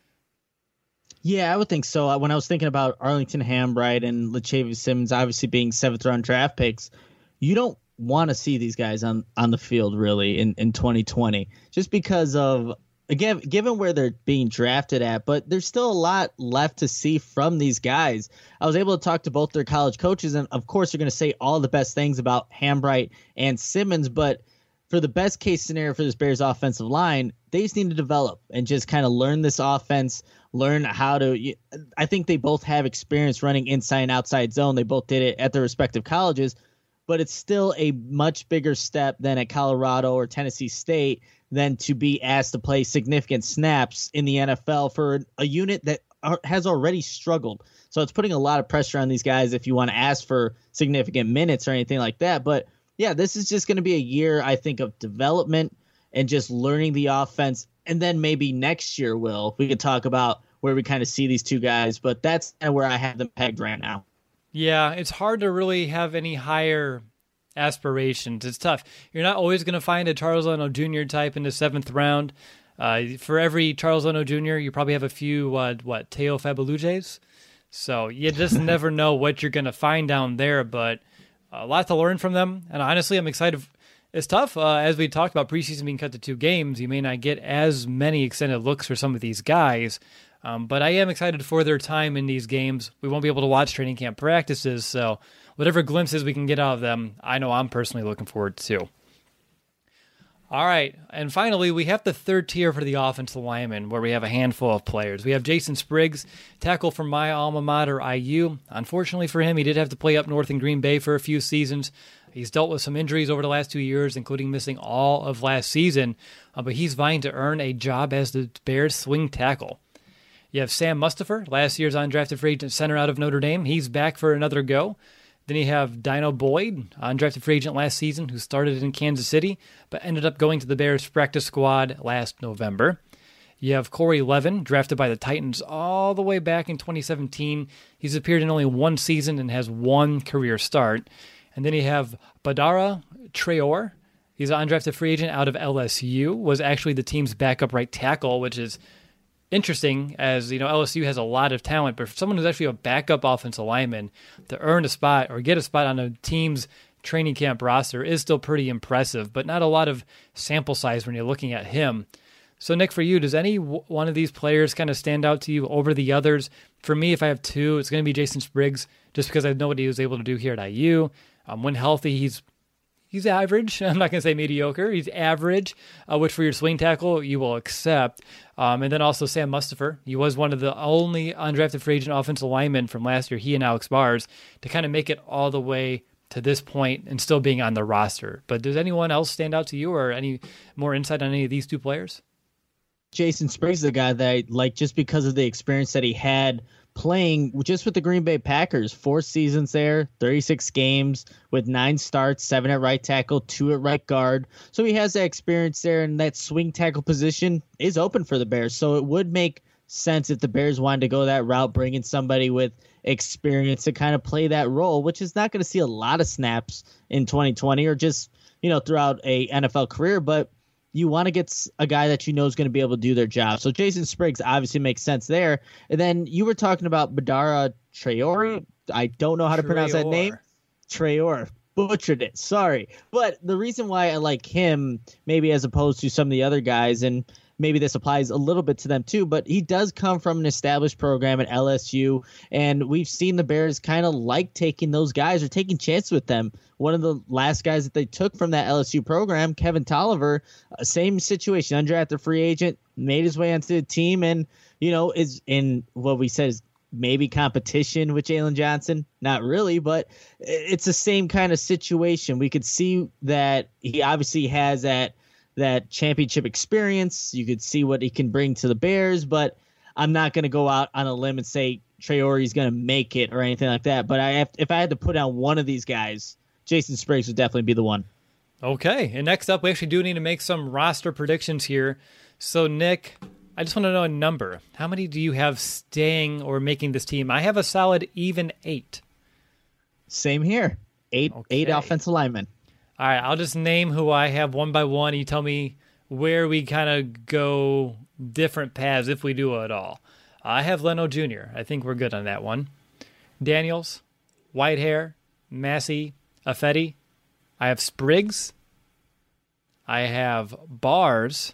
Yeah, I would think so. When I was thinking about Arlington Hambright and Lachavious Simmons obviously being seventh round draft picks, you don't want to see these guys on, on the field really in, in twenty twenty just because of, again, given where they're being drafted at, but there's still a lot left to see from these guys. I was able to talk to both their college coaches, and of course, you're going to say all the best things about Hambright and Simmons, but for the best case scenario for this Bears offensive line, they just need to develop and just kind of learn this offense, learn how to. I think they both have experience running inside and outside zone. They both did it at their respective colleges, but it's still a much bigger step than at Colorado or Tennessee State than to be asked to play significant snaps in the N F L for a unit that are, has already struggled. So it's putting a lot of pressure on these guys if you want to ask for significant minutes or anything like that. But yeah, this is just going to be a year, I think, of development and just learning the offense. And then maybe next year, Will, we could talk about where we kind of see these two guys. But that's kind of where I have them pegged right now. Yeah, it's hard to really have any higher aspirations. It's tough. You're not always going to find a Charles Leno Junior type in the seventh round. Uh, for every Charles Leno Junior, you probably have a few, uh, what, Teo Fabalujes? So you just never know what you're going to find down there, but a lot to learn from them. And honestly, I'm excited. It's tough. Uh, as we talked about preseason being cut to two games, you may not get as many extended looks for some of these guys. Um, but I am excited for their time in these games. We won't be able to watch training camp practices, so whatever glimpses we can get out of them, I know I'm personally looking forward to. All right, and finally, we have the third tier for the offensive linemen, where we have a handful of players. We have Jason Spriggs, tackle from my alma mater, I U. Unfortunately for him, he did have to play up north in Green Bay for a few seasons. He's dealt with some injuries over the last two years, including missing all of last season, uh, but he's vying to earn a job as the Bears' swing tackle. You have Sam Mustipher, last year's undrafted free agent center out of Notre Dame. He's back for another go. Then you have Dino Boyd, undrafted free agent last season, who started in Kansas City, but ended up going to the Bears practice squad last November. You have Corey Levin, drafted by the Titans all the way back in twenty seventeen. He's appeared in only one season and has one career start. And then you have Badara Traore. He's an undrafted free agent out of L S U, was actually the team's backup right tackle, which is interesting, as you know, L S U has a lot of talent, but for someone who's actually a backup offensive lineman to earn a spot or get a spot on a team's training camp roster is still pretty impressive, but not a lot of sample size when you're looking at him. So, Nick, for you, does any w- one of these players kind of stand out to you over the others? For me, if I have two, it's going to be Jason Spriggs, just because I know what he was able to do here at I U. Um, when healthy, he's he's average. I'm not going to say mediocre. He's average, uh, which for your swing tackle, you will accept. Um, and then also Sam Mustipher. He was one of the only undrafted free agent offensive linemen from last year, he and Alex Bars, to kind of make it all the way to this point and still being on the roster. But does anyone else stand out to you, or any more insight on any of these two players? Jason Spriggs is the guy that I like just because of the experience that he had playing just with the Green Bay Packers. Four seasons there, thirty-six games with nine starts, seven at right tackle, two at right guard. So he has that experience there, and that swing tackle position is open for the Bears. So it would make sense if the Bears wanted to go that route, bringing somebody with experience to kind of play that role, which is not going to see a lot of snaps in twenty twenty or just, you know, throughout a N F L career, but you want to get a guy that you know is going to be able to do their job. So Jason Spriggs obviously makes sense there. And then you were talking about Badara Traore. I don't know how to Traore. pronounce that name. Traore. Butchered it. Sorry. But the reason why I like him, maybe as opposed to some of the other guys, and maybe this applies a little bit to them too, but he does come from an established program at L S U, and we've seen the Bears kind of like taking those guys or taking chances with them. One of the last guys that they took from that L S U program, Kevin Tolliver, uh, same situation, undrafted free agent, made his way onto the team, and, you know, is in what we said is maybe competition with Jalen Johnson. Not really, but it's the same kind of situation. We could see that he obviously has that that championship experience. You could see what he can bring to the Bears, but I'm not going to go out on a limb and say Traore is going to make it or anything like that. But I have, if I had to put on one of these guys, Jason Spriggs would definitely be the one. Okay, and next up, we actually do need to make some roster predictions here. So, Nick, I just want to know a number. How many do you have staying or making this team? I have a solid even eight. Same here. Eight, okay. eight offensive linemen. All right, I'll just name who I have one by one. You tell me where we kind of go different paths if we do at all. I have Leno Junior I think we're good on that one. Daniels, Whitehair, Massey, Affetti. I have Spriggs. I have Bars.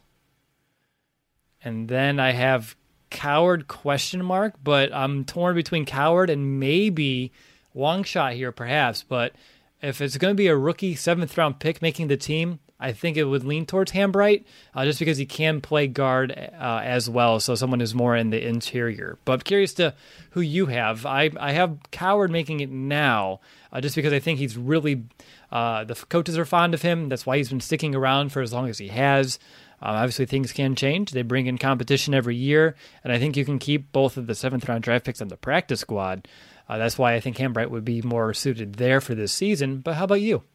And then I have Coward question mark, but I'm torn between Coward and maybe Longshot here perhaps, but if it's going to be a rookie seventh round pick making the team, I think it would lean towards Hambright, uh, just because he can play guard uh, as well, so someone who's more in the interior. But I'm curious to who you have. I, I have Coward making it now, uh, just because I think he's really, uh, the coaches are fond of him. That's why he's been sticking around for as long as he has. Um, obviously, things can change. They bring in competition every year, and I think you can keep both of the seventh round draft picks on the practice squad. Uh, that's why I think Hambright would be more suited there for this season. But how about you?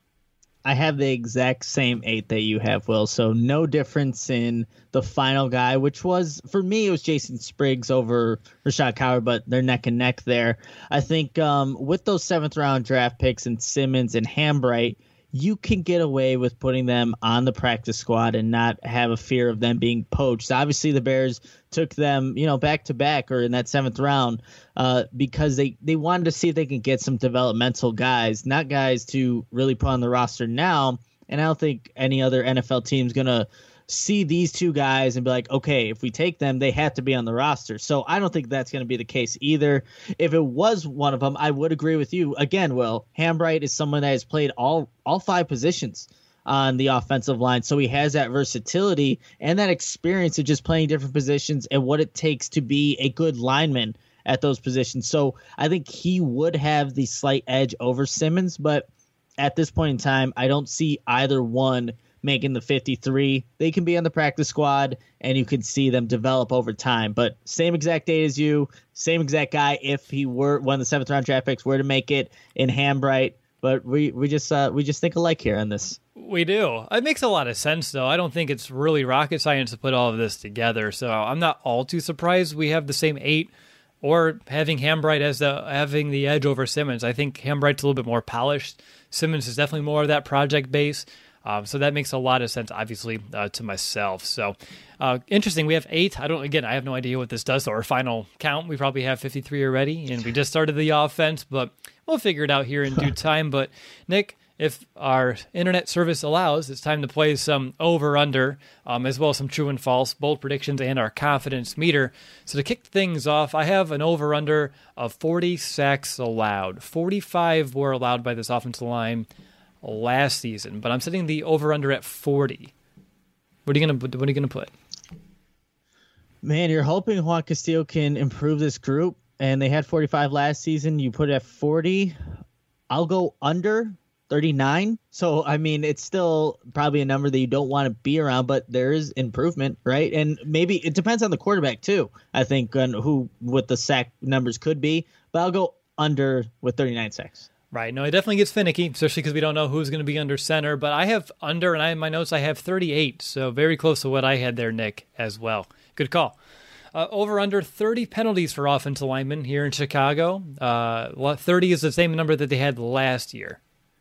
I have the exact same eight that you have, Will. So no difference in the final guy, which was, for me, it was Jason Spriggs over Rashad Coward, but they're neck and neck there. I think um, with those seventh round draft picks and Simmons and Hambright, you can get away with putting them on the practice squad and not have a fear of them being poached. Obviously, the Bears took them, you know, back to back or in that seventh round uh, because they, they wanted to see if they can get some developmental guys, not guys to really put on the roster now. And I don't think any other N F L team is going to see these two guys and be like, okay, if we take them, they have to be on the roster. So I don't think that's going to be the case either. If it was one of them, I would agree with you. Again, Will, Hambright is someone that has played all all five positions on the offensive line. So he has that versatility and that experience of just playing different positions and what it takes to be a good lineman at those positions. So I think he would have the slight edge over Simmons, but at this point in time, I don't see either one making the fifty-three. They can be on the practice squad, and you can see them develop over time. But same exact date as you, same exact guy if he were one of the seventh round draft picks were to make it in Hambright. But we we just uh, we just think alike here on this. We do. It makes a lot of sense, though. I don't think it's really rocket science to put all of this together. So I'm not all too surprised we have the same eight, or having Hambright as the having the edge over Simmons. I think Hambright's a little bit more polished. Simmons is definitely more of that project base. Um, so that makes a lot of sense, obviously, uh, to myself. So uh, interesting. We have eight. I don't. Again, I have no idea what this does to our final count. We probably have fifty-three already, and we just started the offense, but we'll figure it out here in due time. But Nick, if our internet service allows, it's time to play some over-under, um, as well as some true and false, bold predictions, and our confidence meter. So to kick things off, I have an over-under of forty sacks allowed. forty-five were allowed by this offensive line last season, but I'm setting the over-under at forty. What are you gonna What are you gonna put? Man, you're hoping Juan Castillo can improve this group, and they had forty-five last season. You put it at forty. I'll go under thirty-nine. So, I mean, it's still probably a number that you don't want to be around, but there is improvement, right? And maybe it depends on the quarterback, too, I think, on who what the sack numbers could be. But I'll go under with thirty-nine sacks. Right. No, it definitely gets finicky, especially because we don't know who's going to be under center. But I have under, and I in my notes I have thirty-eight, so very close to what I had there, Nick, as well. Good call. Uh, over under thirty penalties for offensive linemen here in Chicago. Uh, thirty is the same number that they had last year.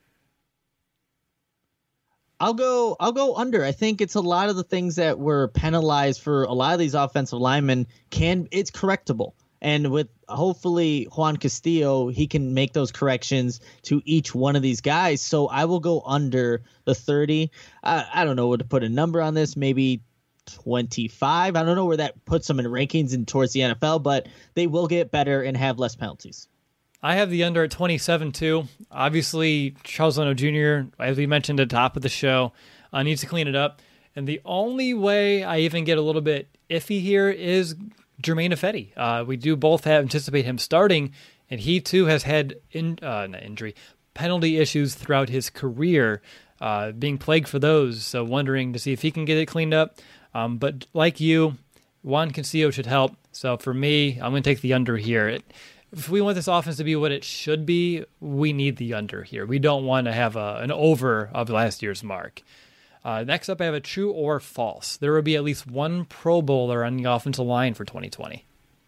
I'll go I'll go under. I think it's a lot of the things that were penalized for a lot of these offensive linemen can it's correctable. And with hopefully Juan Castillo, he can make those corrections to each one of these guys. So I will go under the thirty. I, I don't know what to put a number on this. Maybe twenty-five. I don't know where that puts them in rankings and towards the N F L, but they will get better and have less penalties. I have the under at twenty-seven, too. Obviously, Charles Leno Junior, as we mentioned at the top of the show, uh, needs to clean it up. And the only way I even get a little bit iffy here is Germain Ifedi. Uh, we do both have anticipate him starting, and he, too, has had in, uh, not injury, penalty issues throughout his career, uh, being plagued for those. So wondering to see if he can get it cleaned up. Um, but like you, Juan Castillo should help. So for me, I'm going to take the under here. It, If we want this offense to be what it should be, we need the under here. We don't want to have a, an over of last year's mark. Uh, next up, I have a true or false. There will be at least one Pro Bowler on the offensive line for twenty twenty.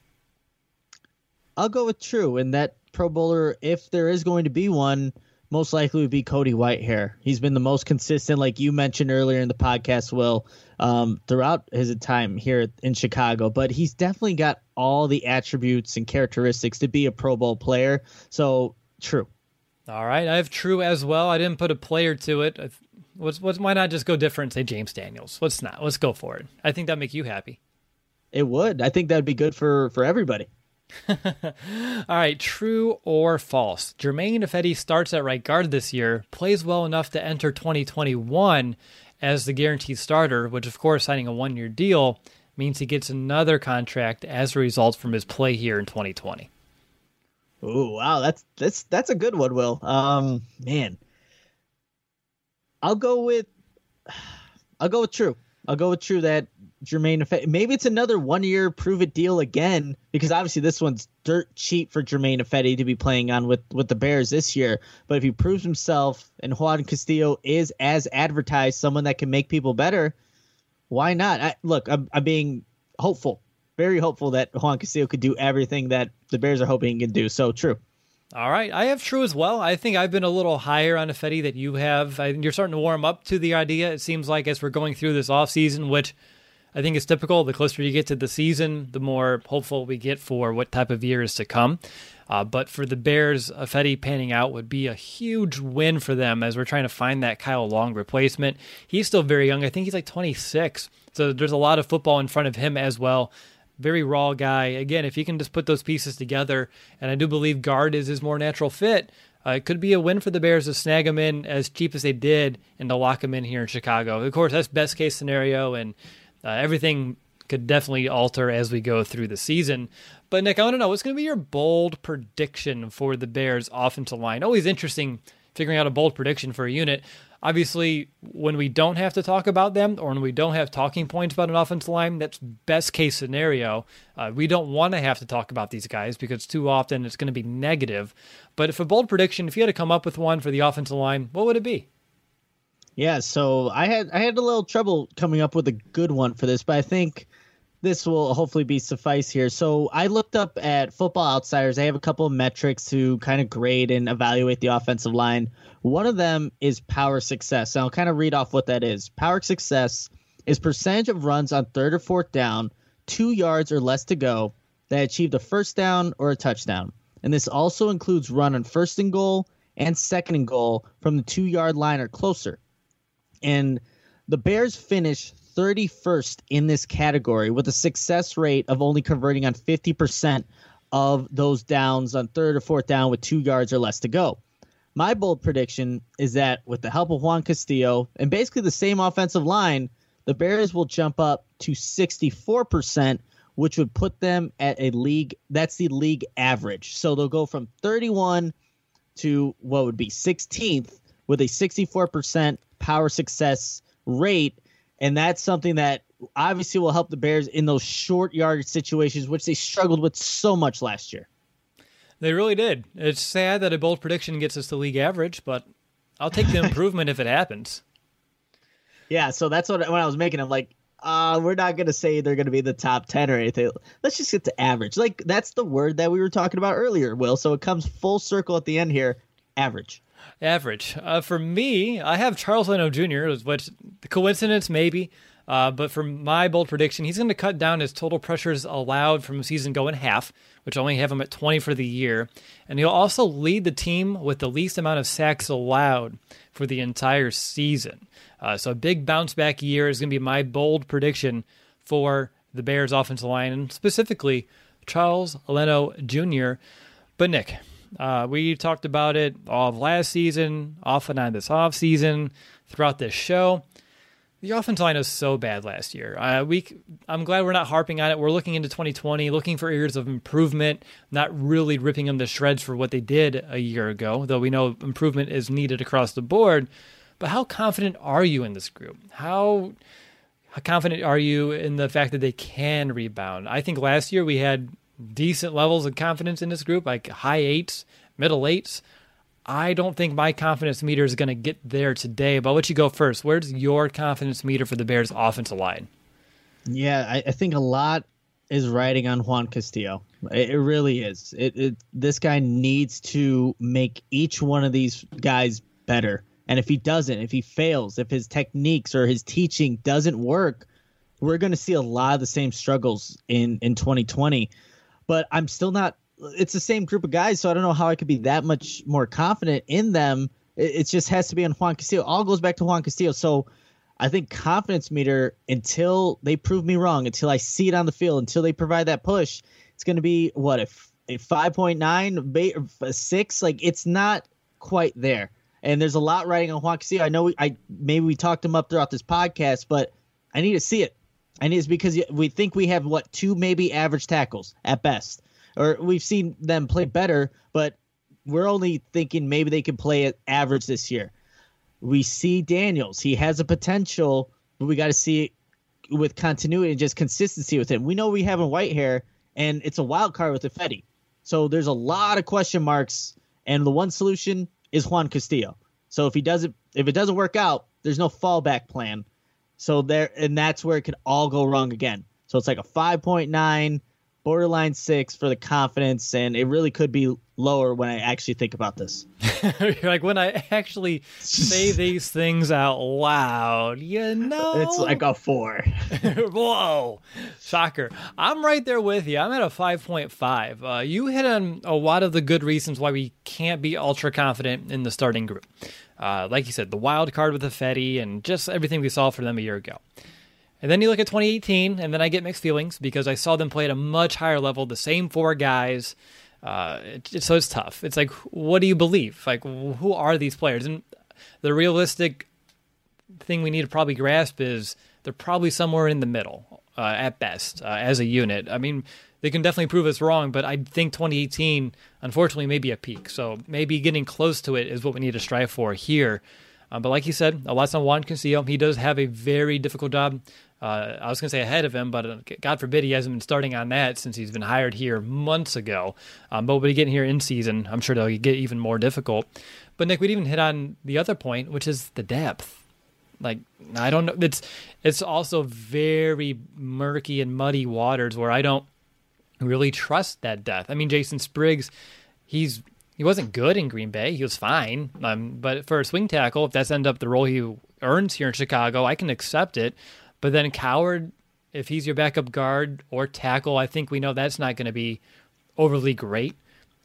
I'll go with true. And that Pro Bowler, if there is going to be one, most likely would be Cody Whitehair. He's been the most consistent, like you mentioned earlier in the podcast, Will, um, throughout his time here in Chicago. But he's definitely got all the attributes and characteristics to be a Pro Bowl player. So, true. All right, I have true as well. I didn't put a player to it. What's, what's, why not just go different and say James Daniels? Let's not. Let's go for it. I think that'd make you happy. It would. I think that'd be good for, for everybody. All right, true or false? Germain Ifedi starts at right guard this year, plays well enough to enter twenty twenty-one as the guaranteed starter, which of course signing a one-year deal means he gets another contract as a result from his play here in twenty twenty. Oh, wow, that's that's that's a good one, Will. Um, man, I'll go with I'll go with true. I'll go with true that Germain Ifedi. Maybe it's another one-year prove-it deal again, because obviously this one's dirt cheap for Germain Ifedi to be playing on with, with the Bears this year. But if he proves himself and Juan Castillo is as advertised, someone that can make people better, why not? I, look, I'm, I'm being hopeful, very hopeful that Juan Castillo could do everything that the Bears are hoping he can do. So true. All right, I have true as well. I think I've been a little higher on Ifedi than you have. I, you're starting to warm up to the idea, it seems like, as we're going through this offseason, which I think is typical. The closer you get to the season, the more hopeful we get for what type of year is to come. Uh, but for the Bears, Ifedi panning out would be a huge win for them as we're trying to find that Kyle Long replacement. He's still very young. I think he's like twenty-six. So there's a lot of football in front of him as well. Very raw guy. Again, if he can just put those pieces together, and I do believe guard is his more natural fit, uh, it could be a win for the Bears to snag him in as cheap as they did and to lock him in here in Chicago. Of course, that's best case scenario, and uh, everything could definitely alter as we go through the season. But Nick, I want to know, what's going to be your bold prediction for the Bears offensive line? Always interesting figuring out a bold prediction for a unit. Obviously, when we don't have to talk about them or when we don't have talking points about an offensive line, that's best case scenario. Uh, we don't want to have to talk about these guys because too often it's going to be negative. But if a bold prediction, if you had to come up with one for the offensive line, what would it be? Yeah, so I had I had a little trouble coming up with a good one for this, but I think this will hopefully be suffice here. So I looked up at Football Outsiders. They have a couple of metrics to kind of grade and evaluate the offensive line. One of them is power success. And I'll kind of read off what that is. Power success is percentage of runs on third or fourth down, two yards or less to go, that achieved a first down or a touchdown. And this also includes run on first and goal and second and goal from the two-yard line or closer. And the Bears finished thirty-first in this category with a success rate of only converting on fifty percent of those downs on third or fourth down with two yards or less to go. My bold prediction is that with the help of Juan Castillo and basically the same offensive line, the Bears will jump up to sixty-four percent, which would put them at a league, that's the league average. So they'll go from thirty-one to what would be sixteenth with a sixty-four percent power success rate. And that's something that obviously will help the Bears in those short yardage situations, which they struggled with so much last year. They really did. It's sad that a bold prediction gets us to league average, but I'll take the improvement if it happens. Yeah, so that's what when I was making, I'm like, uh, we're not going to say they're going to be the top ten or anything. Let's just get to average. Like, that's the word that we were talking about earlier, Will. So it comes full circle at the end here, average. Average. Uh, for me, I have Charles Leno Junior, which the coincidence maybe, uh, but for my bold prediction, he's going to cut down his total pressures allowed from a season go in half, which I only have him at twenty for the year, and he'll also lead the team with the least amount of sacks allowed for the entire season. Uh, so a big bounce back year is going to be my bold prediction for the Bears offensive line, and specifically Charles Leno Junior But Nick, Uh, we talked about it all of last season, off and on this offseason, throughout this show. The offensive line was so bad last year. Uh, we, I'm glad we're not harping on it. We're looking into twenty twenty, looking for areas of improvement, not really ripping them to shreds for what they did a year ago, though we know improvement is needed across the board. But how confident are you in this group? How, how confident are you in the fact that they can rebound? I think last year we had decent levels of confidence in this group, like high eights, middle eights. I don't think my confidence meter is going to get there today, but I'll let you go first. Where's your confidence meter for the Bears offensive line? Yeah, I, I think a lot is riding on Juan Castillo. It, it really is. It, it this guy needs to make each one of these guys better. And if he doesn't, if he fails, if his techniques or his teaching doesn't work, we're going to see a lot of the same struggles in, in twenty twenty. But I'm still not – it's the same group of guys, so I don't know how I could be that much more confident in them. It, it just has to be on Juan Castillo. All goes back to Juan Castillo. So I think confidence meter, until they prove me wrong, until I see it on the field, until they provide that push, it's going to be, what, a, a five point nine, a six? Like, it's not quite there. And there's a lot riding on Juan Castillo. I know we, I maybe we talked him up throughout this podcast, but I need to see it. And it's because we think we have, what, two maybe average tackles at best. Or we've seen them play better, but we're only thinking maybe they can play at average this year. We see Daniels. He has a potential, but we got to see it with continuity and just consistency with him. We know we have a Whitehair, and it's a wild card with Ifedi. So there's a lot of question marks, and the one solution is Juan Castillo. So if he doesn't, if it doesn't work out, there's no fallback plan. So there, and that's where it could all go wrong again. So it's like a five point nine, borderline six for the confidence, and it really could be lower when I actually think about this. You're like, when I actually say these things out loud, you know? It's like a four. Whoa. Shocker. I'm right there with you. I'm at a five point five. Uh, you hit on a lot of the good reasons why we can't be ultra confident in the starting group. Uh, like you said, the wild card with Ifedi and just everything we saw for them a year ago. And then you look at twenty eighteen, and then I get mixed feelings because I saw them play at a much higher level, the same four guys. Uh, it, so it's tough. It's like, what do you believe? Like, who are these players? And the realistic thing we need to probably grasp is they're probably somewhere in the middle uh, at best uh, as a unit. I mean, they can definitely prove us wrong, but I think twenty eighteen, unfortunately, may be a peak. So maybe getting close to it is what we need to strive for here. Um, but like you said, a lot's on Juan Castillo. He does have a very difficult job. Uh, I was going to say ahead of him, but uh, God forbid he hasn't been starting on that since he's been hired here months ago. Um, but when we get here in season, I'm sure they'll get even more difficult. But Nick, we'd even hit on the other point, which is the depth. Like, I don't know. It's it's also very murky and muddy waters where I don't really trust that depth. I mean, Jason Spriggs, he's he wasn't good in Green Bay. He was fine. Um, but for a swing tackle, if that's end up the role he earns here in Chicago, I can accept it. But then Coward, if he's your backup guard or tackle, I think we know that's not going to be overly great.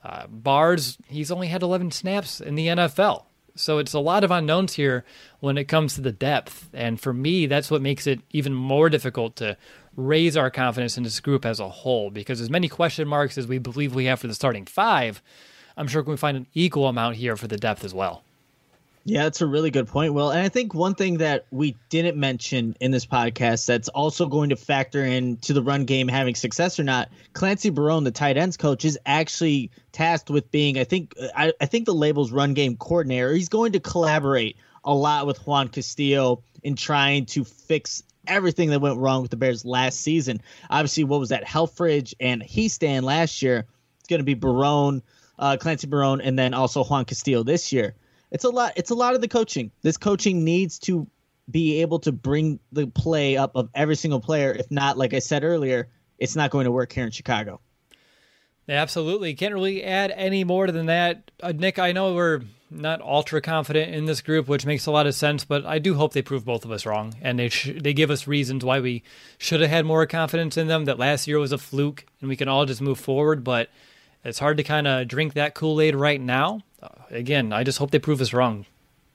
Uh, Bars, he's only had eleven snaps in the N F L. So it's a lot of unknowns here when it comes to the depth. And for me, that's what makes it even more difficult to raise our confidence in this group as a whole, because as many question marks as we believe we have for the starting five, I'm sure we can find an equal amount here for the depth as well. Yeah, that's a really good point, Will. And I think one thing that we didn't mention in this podcast that's also going to factor into the run game having success or not, Clancy Barone, the tight ends coach, is actually tasked with being, I think, I, I think the label's run game coordinator. He's going to collaborate a lot with Juan Castillo in trying to fix everything that went wrong with the Bears last season. Obviously, what was that? Helfrich and Heastan last year. It's going to be Barone, uh, Clancy Barone, and then also Juan Castillo this year. It's a lot. It's a lot of the coaching. This coaching needs to be able to bring the play up of every single player. If not, like I said earlier, it's not going to work here in Chicago. Yeah, absolutely. Can't really add any more than that. Uh, Nick, I know we're not ultra confident in this group, which makes a lot of sense, but I do hope they prove both of us wrong, and they sh- they give us reasons why we should have had more confidence in them, that last year was a fluke, and we can all just move forward, but it's hard to kind of drink that Kool-Aid right now. Uh, again, I just hope they prove us wrong.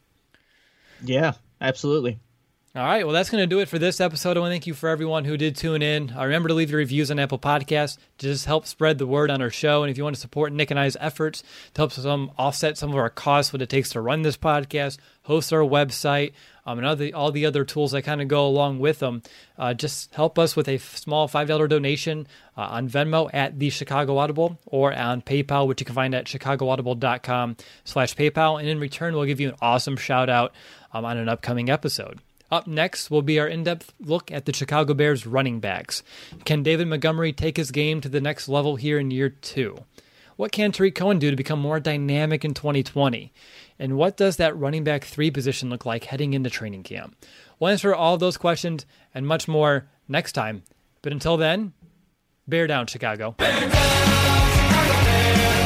Yeah, absolutely. All right, well, that's going to do it for this episode. I want to thank you for everyone who did tune in. Uh, remember to leave your reviews on Apple Podcasts to just help spread the word on our show. And if you want to support Nick and I's efforts to help some offset some of our costs, what it takes to run this podcast, host our website, um, and other, all the other tools that kind of go along with them, uh, just help us with a small five dollars donation uh, on Venmo at the Chicago Audible or on PayPal, which you can find at chicagoaudible.com slash PayPal. And in return, we'll give you an awesome shout out um, on an upcoming episode. Up next will be our in-depth look at the Chicago Bears running backs. Can David Montgomery take his game to the next level here in year two? What can Tariq Cohen do to become more dynamic in twenty twenty? And what does that running back three position look like heading into training camp? We'll answer all those questions and much more next time. But until then, bear down, Chicago. Bear down, Chicago Bears.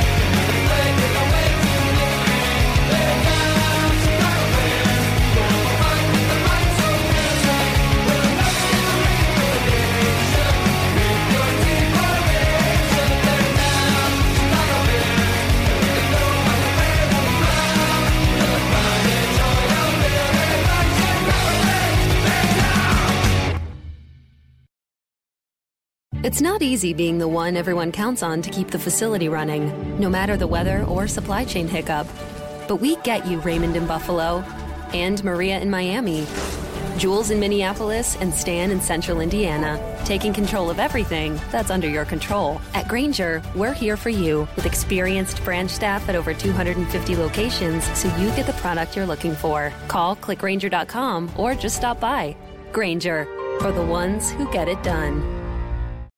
It's not easy being the one everyone counts on to keep the facility running, no matter the weather or supply chain hiccup. But we get you, Raymond in Buffalo, and Maria in Miami, Jules in Minneapolis, and Stan in Central Indiana, taking control of everything that's under your control. At Grainger, we're here for you with experienced branch staff at over two hundred fifty locations so you get the product you're looking for. Call, click Grainger dot com, or just stop by. Grainger, for the ones who get it done.